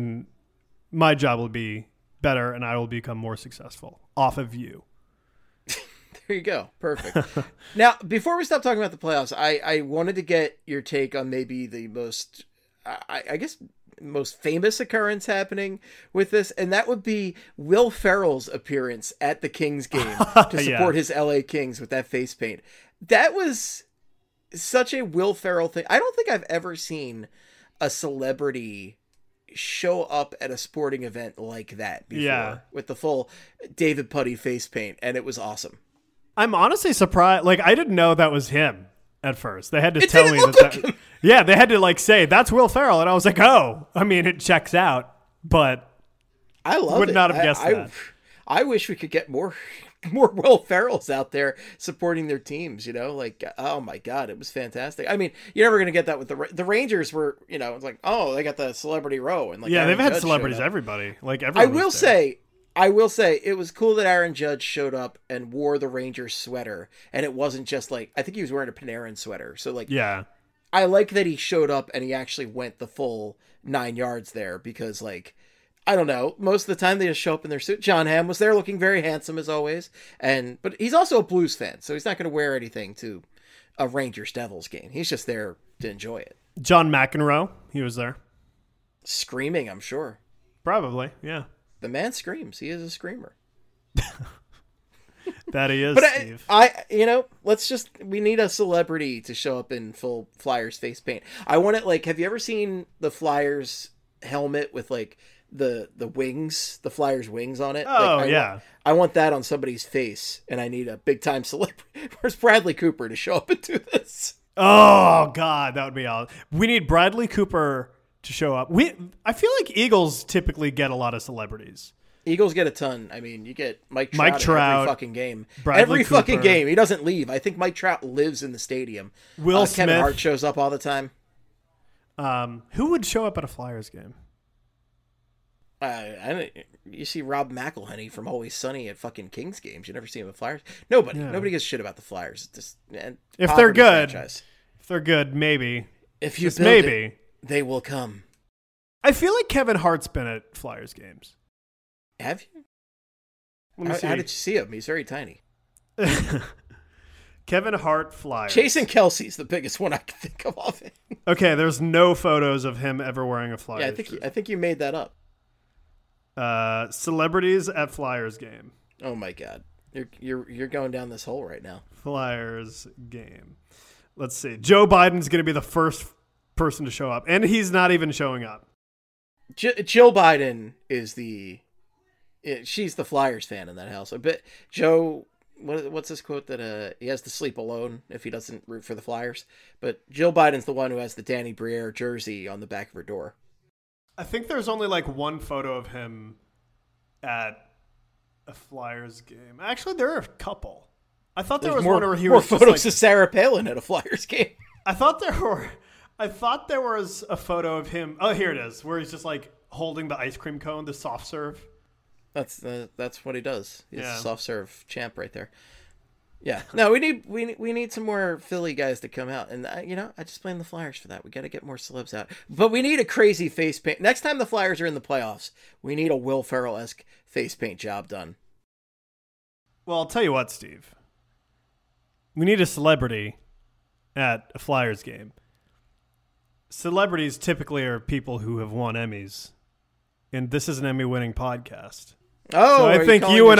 my job will be better and I will become more successful off of you. There you go. Perfect. Now, before we stop talking about the playoffs, I wanted to get your take on maybe the most, I guess, most famous occurrence happening with this, and that would be Will Ferrell's appearance at the Kings game to support his LA Kings with that face paint. That was such a Will Ferrell thing. I don't think I've ever seen a celebrity show up at a sporting event like that before with the full David Puddy face paint, and it was awesome. I'm honestly surprised. Like, I didn't know that was him at first. They had to tell me that. Yeah, they had to like say that's Will Ferrell, and I was like, oh, I mean, it checks out, but I love it. Would not have guessed that. I wish we could get more Will Ferrells out there supporting their teams, like, oh my God, it was fantastic. I mean, you're never going to get that with the Rangers were, it's like, oh, they got the celebrity row. And like, yeah, Aaron they've had Judge celebrities, everybody. Like everyone. I will say it was cool that Aaron Judge showed up and wore the Rangers sweater. And it wasn't just like, I think he was wearing a Panarin sweater. So like, yeah, I like that he showed up and he actually went the full 9 yards there because like, I don't know. Most of the time they just show up in their suit. John Hamm was there looking very handsome as always. But he's also a Blues fan, so he's not going to wear anything to a Rangers Devils game. He's just there to enjoy it. John McEnroe, he was there. Screaming, I'm sure. Probably, yeah. The man screams. He is a screamer. That he is, but Steve. We need a celebrity to show up in full Flyers face paint. I want it like, have you ever seen the Flyers helmet with like the wings, the Flyers wings on it? Oh, like, I want that on somebody's face, and I need a big time celebrity. Where's Bradley Cooper to show up and do this? Oh God, that would be all. We need Bradley Cooper to show up. I feel like Eagles typically get a lot of celebrities. Eagles get a ton. I mean, you get Mike Trout every fucking game. Bradley Cooper. Fucking game. He doesn't leave. I think Mike Trout lives in the stadium. Will Smith. Kevin Hart shows up all the time. Who would show up at a Flyers game? You see Rob McElhenney from Always Sunny at fucking Kings games. You never see him at Flyers. Nobody. Yeah. Nobody gives a shit about the Flyers. If they're good, franchise. if they're good, maybe. If you just build maybe it, they will come. I feel like Kevin Hart's been at Flyers games. Have you? Let me see. How did you see him? He's very tiny. Kevin Hart Flyers. Jason Kelsey's the biggest one I can think of offhand. Okay, there's no photos of him ever wearing a Flyers. Yeah, I think you made that up. Celebrities at Flyers game. Oh my God, you're going down this hole right now. Flyers game. Let's see. Joe Biden's going to be the first person to show up, and he's not even showing up. Jill Biden is she's the Flyers fan in that house. I bet Joe. What's this quote that he has to sleep alone if he doesn't root for the Flyers? But Jill Biden's the one who has the Danny Briere jersey on the back of her door. I think there's only like one photo of him at a Flyers game. Actually, there are a couple. I thought there was one where he was more photos of Sarah Palin at a Flyers game. I thought there was a photo of him. Oh, here it is, where he's just like holding the ice cream cone, the soft serve. That's what he does. He's a soft serve champ right there. Yeah. No, we need some more Philly guys to come out, and I just blame the Flyers for that. We got to get more celebs out, but we need a crazy face paint. Next time the Flyers are in the playoffs, we need a Will Ferrell-esque face paint job done. Well, I'll tell you what, Steve. We need a celebrity at a Flyers game. Celebrities typically are people who have won Emmys, and this is an Emmy-winning podcast. Oh, so I think you and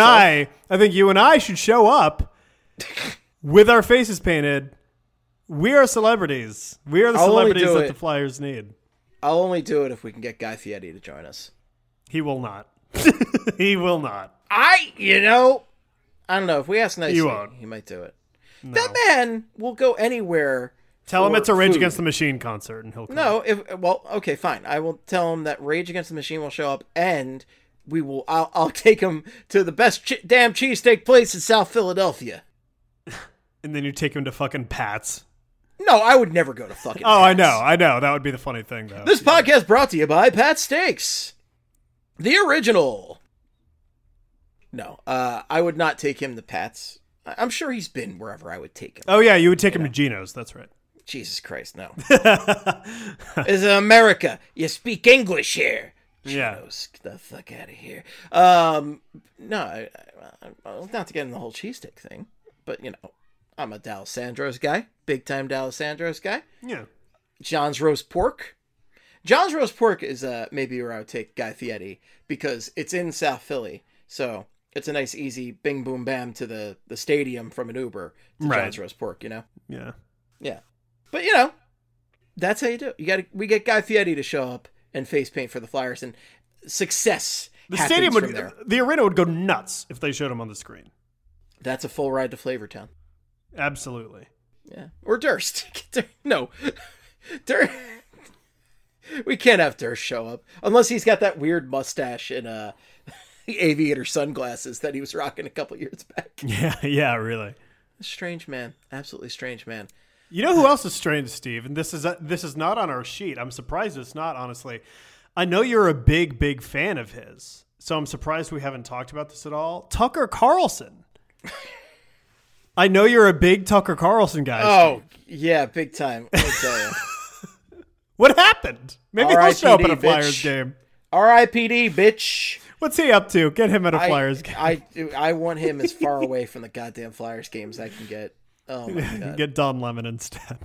I should show up with our faces painted. We are celebrities. We are the celebrities that the Flyers need. I'll only do it if we can get Guy Fieri to join us. He will not. He will not. I don't know. If we ask nicely, he might do it. No. That man will go anywhere. Tell him it's a Rage Against the Machine concert, and he'll come. No, okay, fine. I will tell him that Rage Against the Machine will show up, and I'll take him to the best damn cheesesteak place in South Philadelphia. And then you take him to fucking Pat's. No, I would never go to fucking Pat's. I know. That would be the funny thing, though. This podcast brought to you by Pat's Steaks. The original. No, I would not take him to Pat's. I'm sure he's been wherever I would take him. Oh, yeah, you would take him to Geno's. That's right. Jesus Christ, no. It's America. You speak English here. Geno's, get the fuck out of here. No, not to get in the whole cheesesteak thing, but, I'm a D'Alessandro's guy. Big time D'Alessandro's guy. Yeah. John's Roast Pork. John's Roast Pork is maybe where I would take Guy Fieri because it's in South Philly. So it's a nice, easy bing, boom, bam to the stadium from an Uber to John's Roast Pork, Yeah. Yeah. But, that's how you do it. We get Guy Fieri to show up and face paint for the Flyers, and success happens from there. The arena would go nuts if they showed him on the screen. That's a full ride to Flavortown. Absolutely. Yeah. Or Durst. No. Durst. We can't have Durst show up. Unless he's got that weird mustache and aviator sunglasses that he was rocking a couple years back. Yeah, really. Strange man. Absolutely strange man. You know who else is strange, Steve? And this is not on our sheet. I'm surprised it's not, honestly. I know you're a big, big fan of his, so I'm surprised we haven't talked about this at all. Tucker Carlson. I know you're a big Tucker Carlson guy. Oh, Steve. Yeah, big time. Let me tell you. What happened? Maybe he'll show up at a Flyers game. R.I.P.D., bitch. What's he up to? Get him at a Flyers game. I want him as far away from the goddamn Flyers games I can get. Oh, my God. Get Don Lemon instead.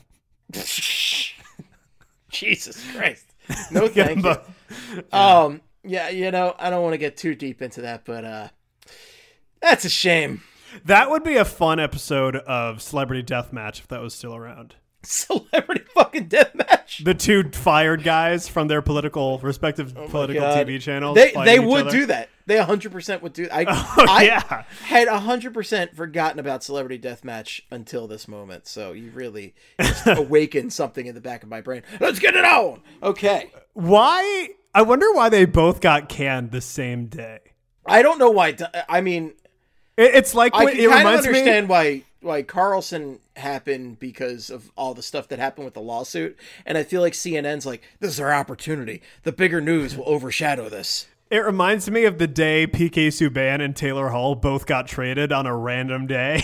Jesus Christ. No, thank you. Yeah, I don't want to get too deep into that, but that's a shame. That would be a fun episode of Celebrity Deathmatch if that was still around. Celebrity fucking Deathmatch? The two fired guys from their respective political God. TV channels. They fighting each would other. do that. They 100% would do that. Yeah. Had 100% forgotten about Celebrity Deathmatch until this moment. So you really just awakened something in the back of my brain. Let's get it on. Okay. Why? I wonder why they both got canned the same day. I don't know why. I mean, It's like I it can kind of reminds understand me. why Carlson happened because of all the stuff that happened with the lawsuit. And I feel like CNN's like, this is our opportunity. The bigger news will overshadow this. It reminds me of the day PK Subban and Taylor Hall both got traded on a random day.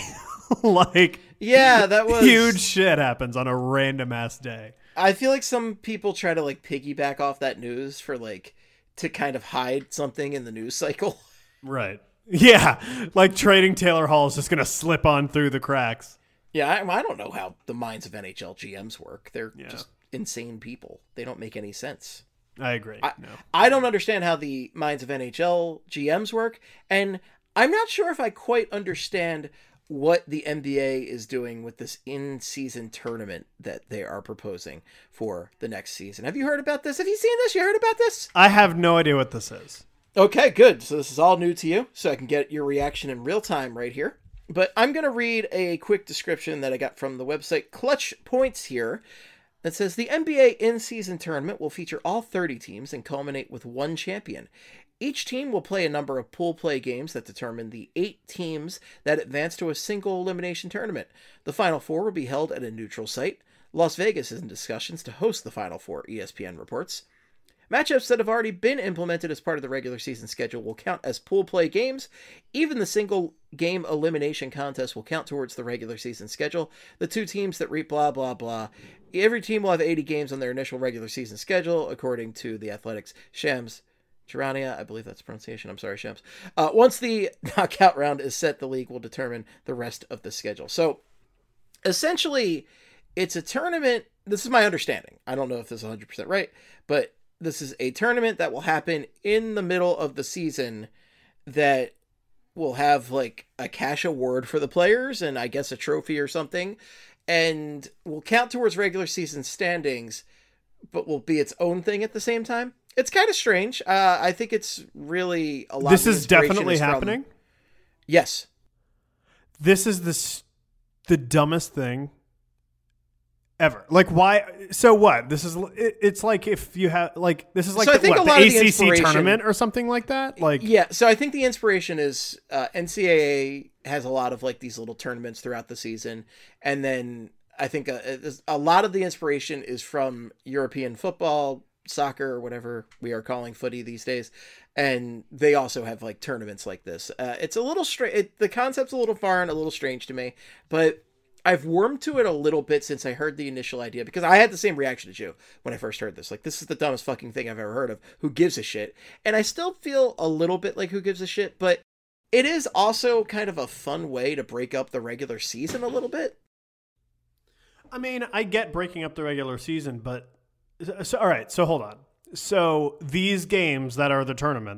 Like, Yeah, that was huge shit happens on a random ass day. I feel like some people try to like piggyback off that news for like to kind of hide something in the news cycle. Right. Yeah. Like trading Taylor Hall is just going to slip on through the cracks. Yeah, I don't know how the minds of NHL GMs work. They're just insane people. They don't make any sense. I agree. I don't understand how the minds of NHL GMs work, and I'm not sure if I quite understand what the NBA is doing with this in-season tournament that they are proposing for the next season. Have you heard about this? Have you seen this? You heard about this? I have no idea what this is. Okay, good. So this is all new to you, so I can get your reaction in real time right here. But I'm going to read a quick description that I got from the website Clutch Points here. That says the NBA in-season tournament will feature all 30 teams and culminate with one champion. Each team will play a number of pool play games that determine the 8 teams that advance to a single elimination tournament. The Final Four will be held at a neutral site. Las Vegas is in discussions to host the Final Four, ESPN reports. Matchups that have already been implemented as part of the regular season schedule will count as pool play games. Even the single game elimination contest will count towards the regular season schedule. The 2 teams that reap blah, blah, blah. Every team will have 80 games on their initial regular season schedule, according to the Athletics. Shams Charania, I believe that's the pronunciation. I'm sorry, Shams. Once the knockout round is set, the league will determine the rest of the schedule. So, essentially, it's a tournament. This is my understanding. I don't know if this is 100% right, but this is a tournament that will happen in the middle of the season that will have like a cash award for the players and I guess a trophy or something, and will count towards regular season standings, but will be its own thing at the same time. It's kind of strange. I think it's really a lot. This of is definitely happening. Yes. This is the dumbest thing ever. Like, why? So what? This is, it's like if you have, like, this is like So I think a lot of the ACC inspiration- tournament or something like that. Like, Yeah, so I think the inspiration is NCAA has a lot of like these little tournaments throughout the season, and then I think a lot of the inspiration is from European football, soccer, or whatever we are calling footy these days, and they also have like tournaments like this. It's a little strange. The concept's a little foreign, a little strange to me, but I've warmed to it a little bit since I heard the initial idea, because I had the same reaction as you when I first heard this. Like, this is the dumbest fucking thing I've ever heard of. Who gives a shit? And I still feel a little bit like who gives a shit, but it is also kind of a fun way to break up the regular season a little bit. I mean, I get breaking up the regular season, but so, all right, so hold on. So these games that are the tournament,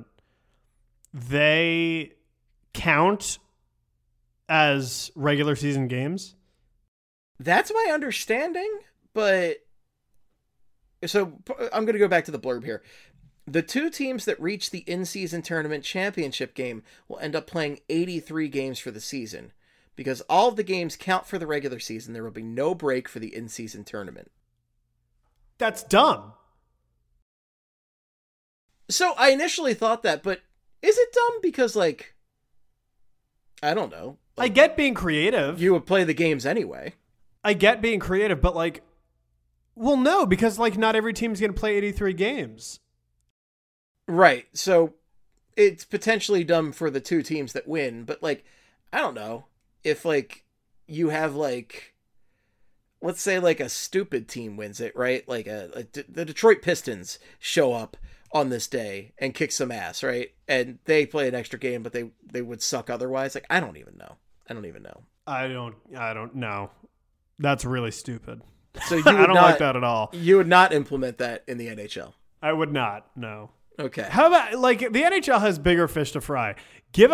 they count as regular season games? That's my understanding, but so I'm going to go back to the blurb here. The 2 teams that reach the in-season tournament championship game will end up playing 83 games for the season. Because all of the games count for the regular season, there will be no break for the in-season tournament. That's dumb. So I initially thought that, but is it dumb? Because, like, I don't know. I get being creative. You would play the games anyway. I get being creative, but like, well, no, because like not every team's going to play 83 games. Right. So it's potentially dumb for the 2 teams that win, but like, I don't know. If like you have like, let's say like a stupid team wins it, right? Like the Detroit Pistons show up on this day and kick some ass, right? And they play an extra game, but they would suck otherwise. Like, I don't even know. I don't know. That's really stupid. So you I don't like that at all. You would not implement that in the NHL. I would not. No. Okay. How about like the NHL has bigger fish to fry? Give us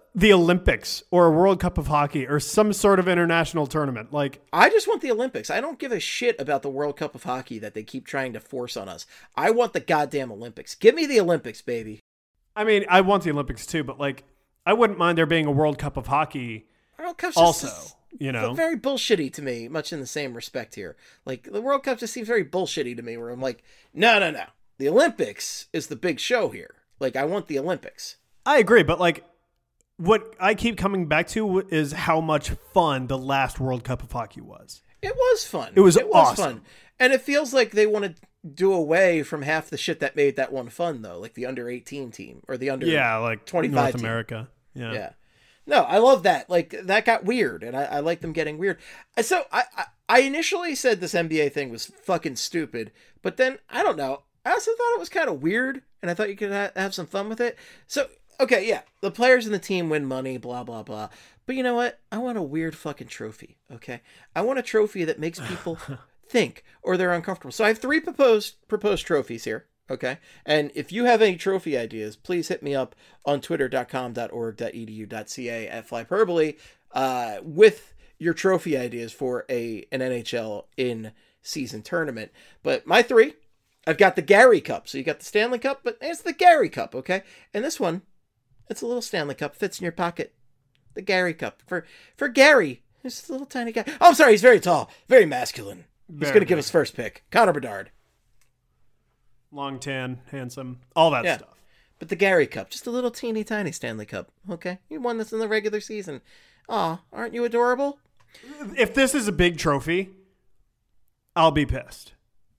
the Olympics or a World Cup of Hockey or some sort of international tournament. Like, I just want the Olympics. I don't give a shit about the World Cup of Hockey that they keep trying to force on us. I want the goddamn Olympics. Give me the Olympics, baby. I mean, I want the Olympics too, but like, I wouldn't mind there being a World Cup of Hockey World Cup's also, just you know? very bullshitty to me, much in the same respect here. Like, the World Cup just seems very bullshitty to me, where I'm like, no. The Olympics is the big show here. Like, I want the Olympics. I agree, but like, what I keep coming back to is how much fun the last World Cup of Hockey was. It was fun. It was awesome. fun. And it feels like they want to do away from half the shit that made that one fun, though. Like the under-18 team or the under like 25 North team. America. Yeah. No, I love that. Like, that got weird, and I like them getting weird. So I initially said this NBA thing was fucking stupid, but then, I don't know. I also thought it was kind of weird, and I thought you could have some fun with it. So, okay, yeah, the players in the team win money, blah, blah, blah. But you know what? I want a weird fucking trophy, okay? I want a trophy that makes people think, or they're uncomfortable. So I have 3 proposed trophies here, okay? And if you have any trophy ideas, please hit me up on twitter.com.org.edu.ca at Flyperbole with your trophy ideas for an NHL in-season tournament. But my 3... I've got the Gary Cup. So you got the Stanley Cup, but it's the Gary Cup, okay? And this one, it's a little Stanley Cup, fits in your pocket. The Gary Cup. For Gary, he's a little tiny guy. Oh, I'm sorry, he's very tall, very masculine. He's going to give us first pick. Connor Bedard. Long tan, handsome, all that stuff. But the Gary Cup, just a little teeny tiny Stanley Cup, okay? You won this in the regular season. Aw, aren't you adorable? If this is a big trophy, I'll be pissed.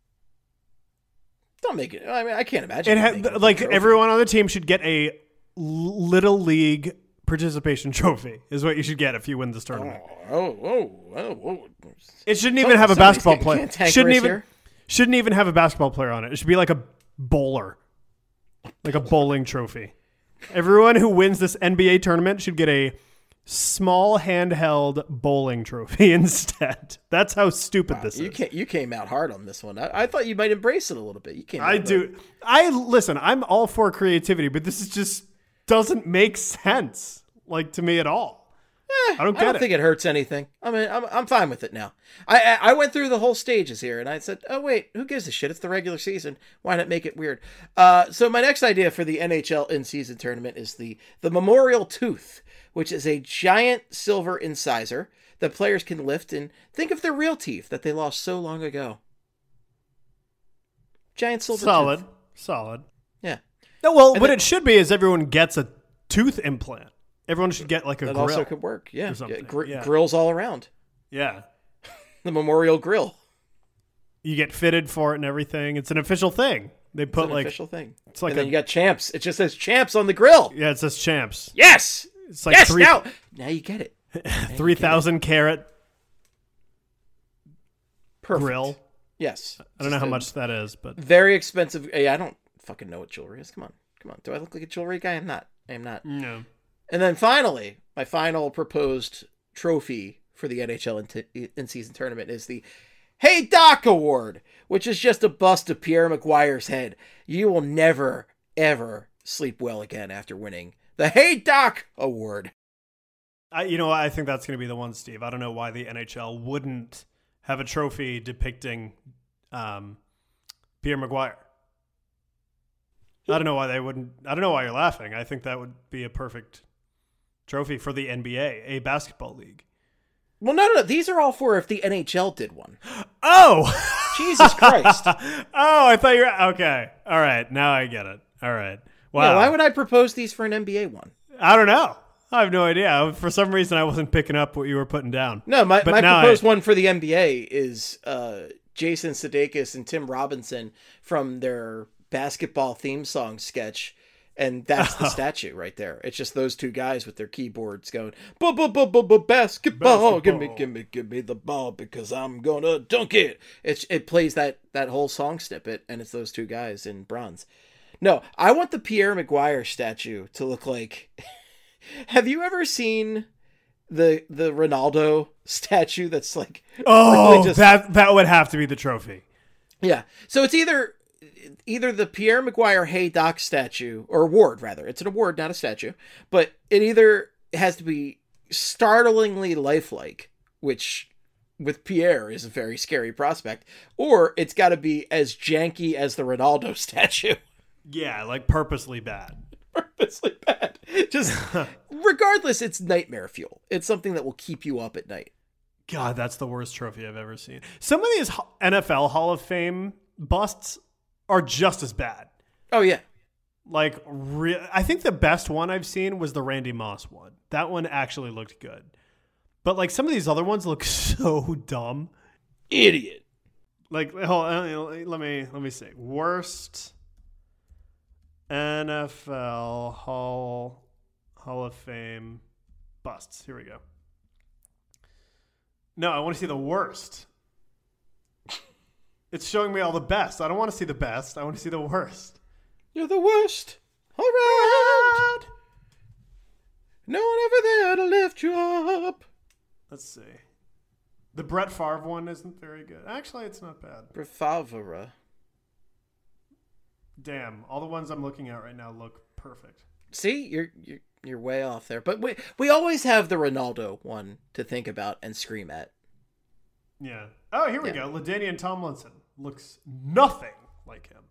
Don't make it. I mean, I can't imagine. Like, everyone on the team should get a Little League participation trophy, is what you should get if you win this tournament. It shouldn't even have a basketball player. Shouldn't even have a basketball player on it. It should be like a bowler, like a bowling trophy. Everyone who wins this NBA tournament should get a small handheld bowling trophy instead. That's how stupid this is. You came out hard on this one. I thought you might embrace it a little bit. You came. Listen. I'm all for creativity, but this is just doesn't make sense, like, to me at all. I don't think it hurts anything. I mean, I'm fine with it now. I went through the whole stages here, and I said, oh wait, who gives a shit? It's the regular season. Why not make it weird? So my next idea for the NHL in-season tournament is the Memorial Tooth, which is a giant silver incisor that players can lift and think of their real teeth that they lost so long ago. Giant silver tooth. Solid. Yeah. No, well, what it should be is everyone gets a tooth implant. Everyone should get like a grill. That also could work, yeah. Yeah. Grills all around. Yeah. The Memorial Grill. You get fitted for it and everything. It's an official thing. They put official thing. It's like and then you got champs. It just says champs on the grill. Yeah, it says champs. Yes. It's like now you get it. 3,000 carat Perfect. grill. Yes. I don't know how much that is, but very expensive. Hey, I don't fucking know what jewelry is. Come on. Do I look like a jewelry guy? I'm not. No. And then finally, my final proposed trophy for the NHL in-season tournament is the Hey Doc Award, which is just a bust of Pierre Maguire's head. You will never, ever sleep well again after winning the Hey Doc Award. I think that's going to be the one, Steve. I don't know why the NHL wouldn't have a trophy depicting Pierre Maguire. I don't know why they wouldn't. I don't know why you're laughing. I think that would be a perfect trophy for the NBA, a basketball league. Well, no. These are all for if the NHL did one. Oh! Jesus Christ. Oh, I thought you were... Okay. All right. Now I get it. All right. Wow. Yeah, why would I propose these for an NBA one? I don't know. I have no idea. For some reason, I wasn't picking up what you were putting down. No, my proposed one for the NBA is Jason Sudeikis and Tim Robinson from their basketball theme song sketch. And that's the statue right there. It's just those two guys with their keyboards going, basketball, give me the ball because I'm gonna dunk it. It plays that whole song snippet, and it's those two guys in bronze. No, I want the Pierre Maguire statue to look like. Have you ever seen the Ronaldo statue? That's like, really just... that would have to be the trophy. Yeah, so it's either the Pierre Maguire Hey Doc statue, or award rather. It's an award, not a statue. But it either has to be startlingly lifelike, which with Pierre is a very scary prospect, or it's got to be as janky as the Ronaldo statue. Yeah, like purposely bad. Purposely bad. Just regardless, it's nightmare fuel. It's something that will keep you up at night. God, that's the worst trophy I've ever seen. Some of these NFL Hall of Fame busts are just as bad. Oh yeah. Like, I think the best one I've seen was the Randy Moss one. That one actually looked good. But like some of these other ones look so dumb. Idiot. Like, hold on, let me see. Worst NFL Hall of Fame busts. Here we go. No, I want to see the worst. It's showing me all the best. I don't want to see the best. I want to see the worst. You're the worst around. No one ever there to lift you up. Let's see. The Brett Favre one isn't very good. Actually, it's not bad. Brefavora. Damn, all the ones I'm looking at right now look perfect. See, you're way off there. But we always have the Ronaldo one to think about and scream at. Yeah. Oh, here we go. LaDainian Tomlinson looks nothing like him.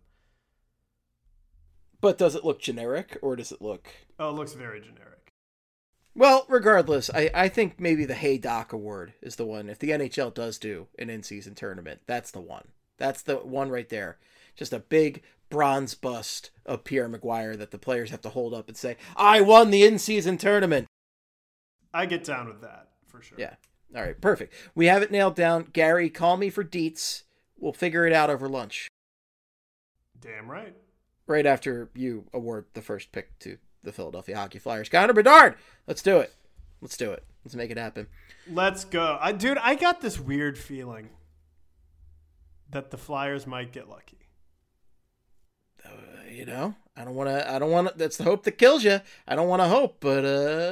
But does it look generic, or does it look... Oh, it looks very generic. Well, regardless, I think maybe the Hey Doc Award is the one. If the NHL does do an in-season tournament, that's the one. That's the one right there. Just a big bronze bust of Pierre Maguire that the players have to hold up and say, I won the in-season tournament. I get down with that, for sure. Yeah. All right, perfect. We have it nailed down. Gary, call me for deets. We'll figure it out over lunch. Damn right. Right after you award the first pick to the Philadelphia Hockey Flyers. Connor Bedard! Let's do it. Let's make it happen. Let's go. Dude, I got this weird feeling that the Flyers might get lucky. I don't want to, that's the hope that kills you. I don't want to hope, but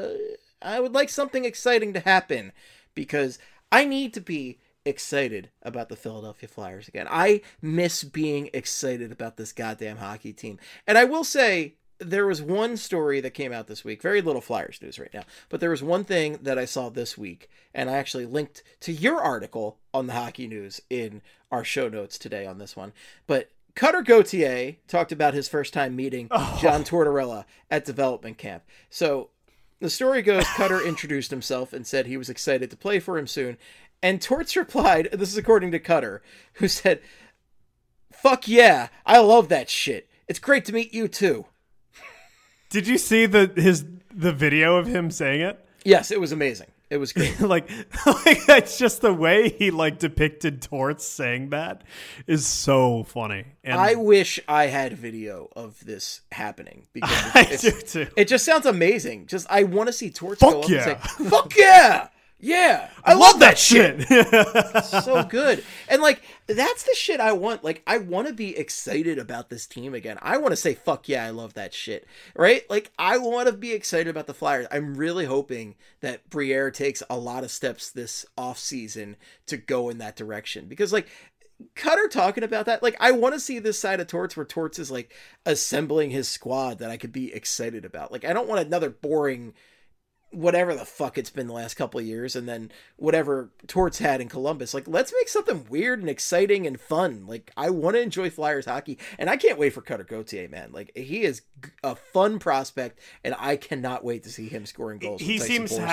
I would like something exciting to happen because I need to be excited about the Philadelphia Flyers again. I miss being excited about this goddamn hockey team. And I will say, there was one story that came out this week, very little Flyers news right now, but there was one thing that I saw this week, and I actually linked to your article on the Hockey News in our show notes today on this one. But Cutter Gauthier talked about his first time meeting John Tortorella at development camp. So the story goes, Cutter introduced himself and said he was excited to play for him soon. And Torts replied, this is according to Cutter, who said, "Fuck yeah, I love that shit. It's great to meet you too." Did you see the video of him saying it? Yes, it was amazing. It was great. like that's just the way he depicted Torts saying that is so funny. And I wish I had video of this happening because I do too. It just sounds amazing. Just I want to see Torts Fuck go up yeah. and say, "Fuck yeah, yeah, I love that shit." It's So good. And like that's the shit I want. Like I want to be excited about this team again. I want to say fuck yeah, I love that shit. Right? Like I want to be excited about the Flyers. I'm really hoping that Briere takes a lot of steps this offseason to go in that direction because like Cutter talking about that, like I want to see this side of Torts where Torts is like assembling his squad that I could be excited about. Like I don't want another boring whatever the fuck it's been the last couple of years and then whatever Torts had in Columbus. Like let's make something weird and exciting and fun. Like I want to enjoy Flyers hockey and I can't wait for Cutter Gauthier, man. Like he is a fun prospect and I cannot wait to see him scoring goals. He seems to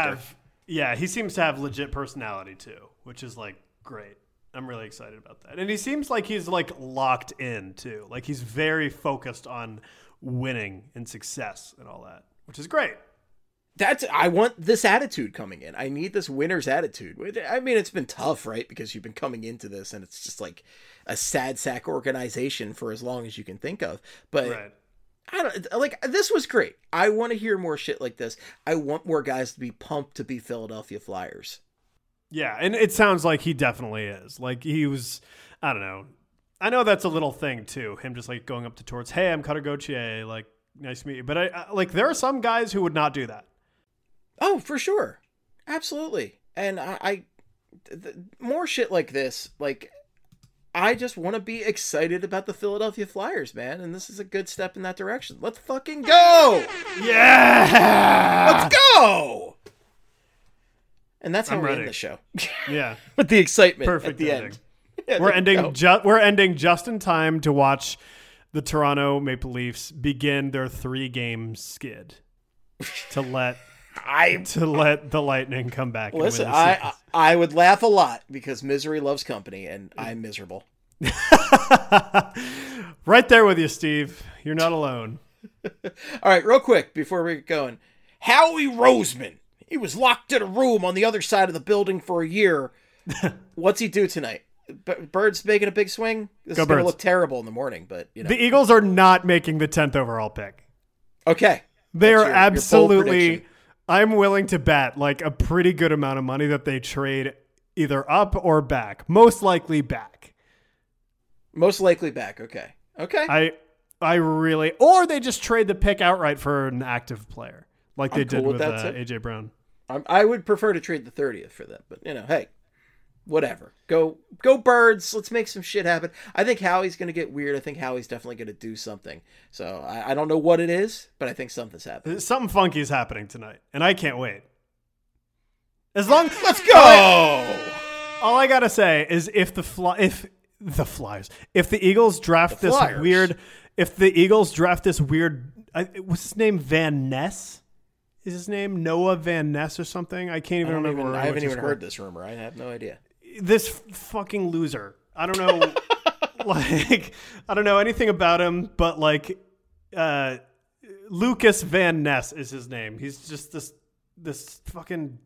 have legit personality too, which is like great. I'm really excited about that. And he seems like he's like locked in too. Like he's very focused on winning and success and all that, which is great. I want this attitude coming in. I need this winner's attitude. I mean, it's been tough, right? Because you've been coming into this and it's just like a sad sack organization for as long as you can think of. But right. I don't like this was great. I want to hear more shit like this. I want more guys to be pumped to be Philadelphia Flyers. Yeah, and it sounds like he definitely is. Like he was, I don't know. I know that's a little thing too. Him just like going up to Torts, "Hey, I'm Cutter Gauthier, like nice to meet you." But I like there are some guys who would not do that. Oh, for sure. Absolutely. And more shit like this, like I just want to be excited about the Philadelphia Flyers, man, and this is a good step in that direction. Let's fucking go! Yeah! Let's go! And that's how I'm we ready. end the show. Yeah. With the excitement Perfect at the ending. end. Yeah, We're there we ending. go. We're ending just in time to watch the Toronto Maple Leafs begin their 3-game skid to let the Lightning come back. Listen, and win the series. I would laugh a lot because misery loves company, and I'm miserable. Right there with you, Steve. You're not alone. All right, real quick before we get going, Howie Roseman. He was locked in a room on the other side of the building for a year. What's he do tonight? Birds making a big swing? This Go is going to Birds. look terrible in the morning, but you know. The Eagles are not making the 10th overall pick. Okay. They That's are your bold absolutely. prediction. I'm willing to bet like a pretty good amount of money that they trade either up or back. Most likely back. Most likely back. Okay. Okay. I really, or they just trade the pick outright for an active player, like they I'm did cool with with that, too. AJ Brown. I would prefer to trade the 30th for that, but you know, hey, whatever. Go Birds. Let's make some shit happen. I think Howie's going to get weird. I think Howie's definitely going to do something. So I don't know what it is, but I think something's happening. Something funky is happening tonight, and I can't wait. As long, Let's go. all I gotta say is if the Eagles draft this Flyers. weird, what's his name? Van Ness. Is his name Noah Van Ness or something? I can't even remember. I haven't even heard this rumor. I have no idea. This fucking loser. I don't know. I don't know anything about him, but Lucas Van Ness is his name. He's just this fucking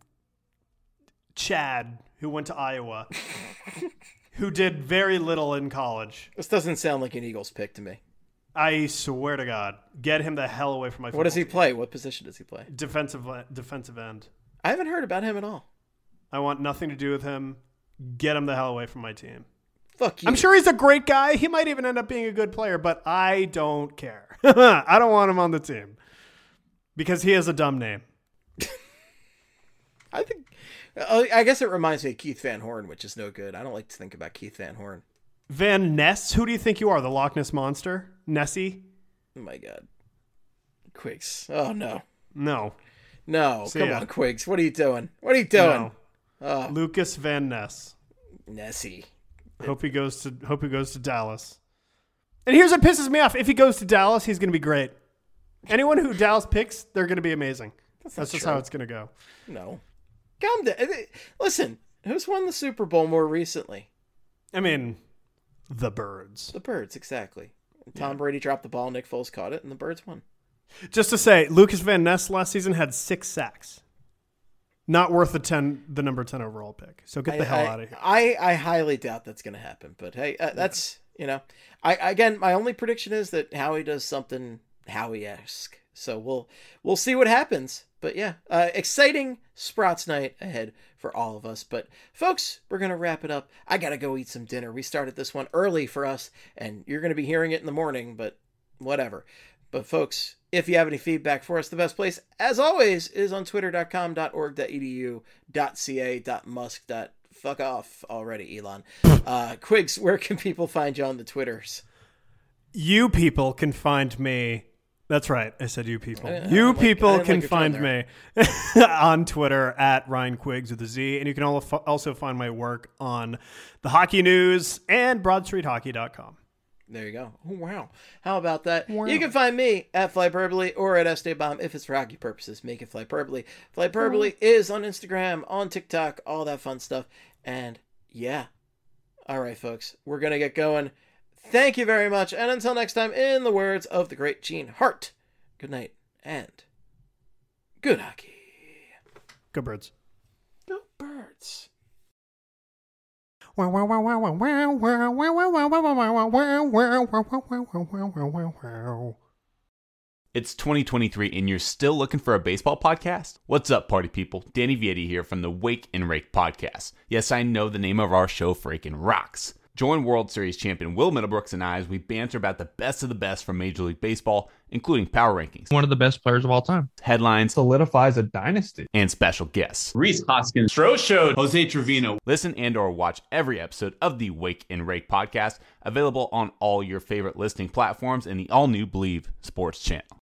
Chad who went to Iowa, who did very little in college. This doesn't sound like an Eagles pick to me. I swear to God, get him the hell away from my. What does he team. play? What position does he play? Defensive end. I haven't heard about him at all. I want nothing to do with him. Get him the hell away from my team. Fuck you. I'm sure he's a great guy. He might even end up being a good player, but I don't care. I don't want him on the team because he has a dumb name. I guess it reminds me of Keith Van Horn, which is no good. I don't like to think about Keith Van Horn. Van Ness? Who do you think you are? The Loch Ness Monster? Nessie? Oh my God. Quigs. Oh no. No. No. See Come ya. on, Quigs. What are you doing? What are you doing? No. Lucas Van Ness. Nessie. Hope he goes to Dallas. And here's what pisses me off. If he goes to Dallas, he's going to be great. Anyone who Dallas picks, they're going to be amazing. That's just true. how it's going to go. No. Calm down. Listen, who's won the Super Bowl more recently? I mean, the Birds. The Birds, exactly. Tom Brady dropped the ball, Nick Foles caught it, and the Birds won. Just to say, Lucas Van Ness last season had 6 sacks. Not worth the number 10 overall pick. So get the hell out of here. I highly doubt that's going to happen. But hey, that's, again, my only prediction is that Howie does something Howie-esque. So we'll see what happens. But yeah, exciting Sprouts night ahead for all of us. But folks, we're going to wrap it up. I got to go eat some dinner. We started this one early for us, and you're going to be hearing it in the morning, but whatever. But folks, if you have any feedback for us, the best place, as always, is on twitter.com.org.edu.ca.musk. Fuck off already, Elon. Quigs, where can people find you on the Twitters? You people can find me. That's right. I said you people. I You didn't people like can your find tone me on Twitter at Ryan Quiggs with a Z. And you can also find my work on the Hockey News and BroadStreetHockey.com. There you go. Oh, wow. How about that? Wow. You can find me at Flyperbole or at Esteban if it's for hockey purposes. Make it Flyperbole. Flyperbole is on Instagram, on TikTok, all that fun stuff. And yeah. All right, folks. We're going to get going. Thank you very much. And until next time, in the words of the great Gene Hart, good night and good hockey. Go Birds. Go Birds. It's 2023 and you're still looking for a baseball podcast? What's up, party people? Danny Vietti here from the Wake and Rake podcast. Yes, I know the name of our show freaking rocks. Join World Series champion Will Middlebrooks and I as we banter about the best of the best from Major League Baseball, including power rankings, One of the best players of all time. headlines, Solidifies a dynasty. and special guests. Rhys Hoskins, Stro Show, Jose Trevino. Listen and or watch every episode of the Wake and Rake podcast, available on all your favorite listening platforms and the all-new Believe Sports channel.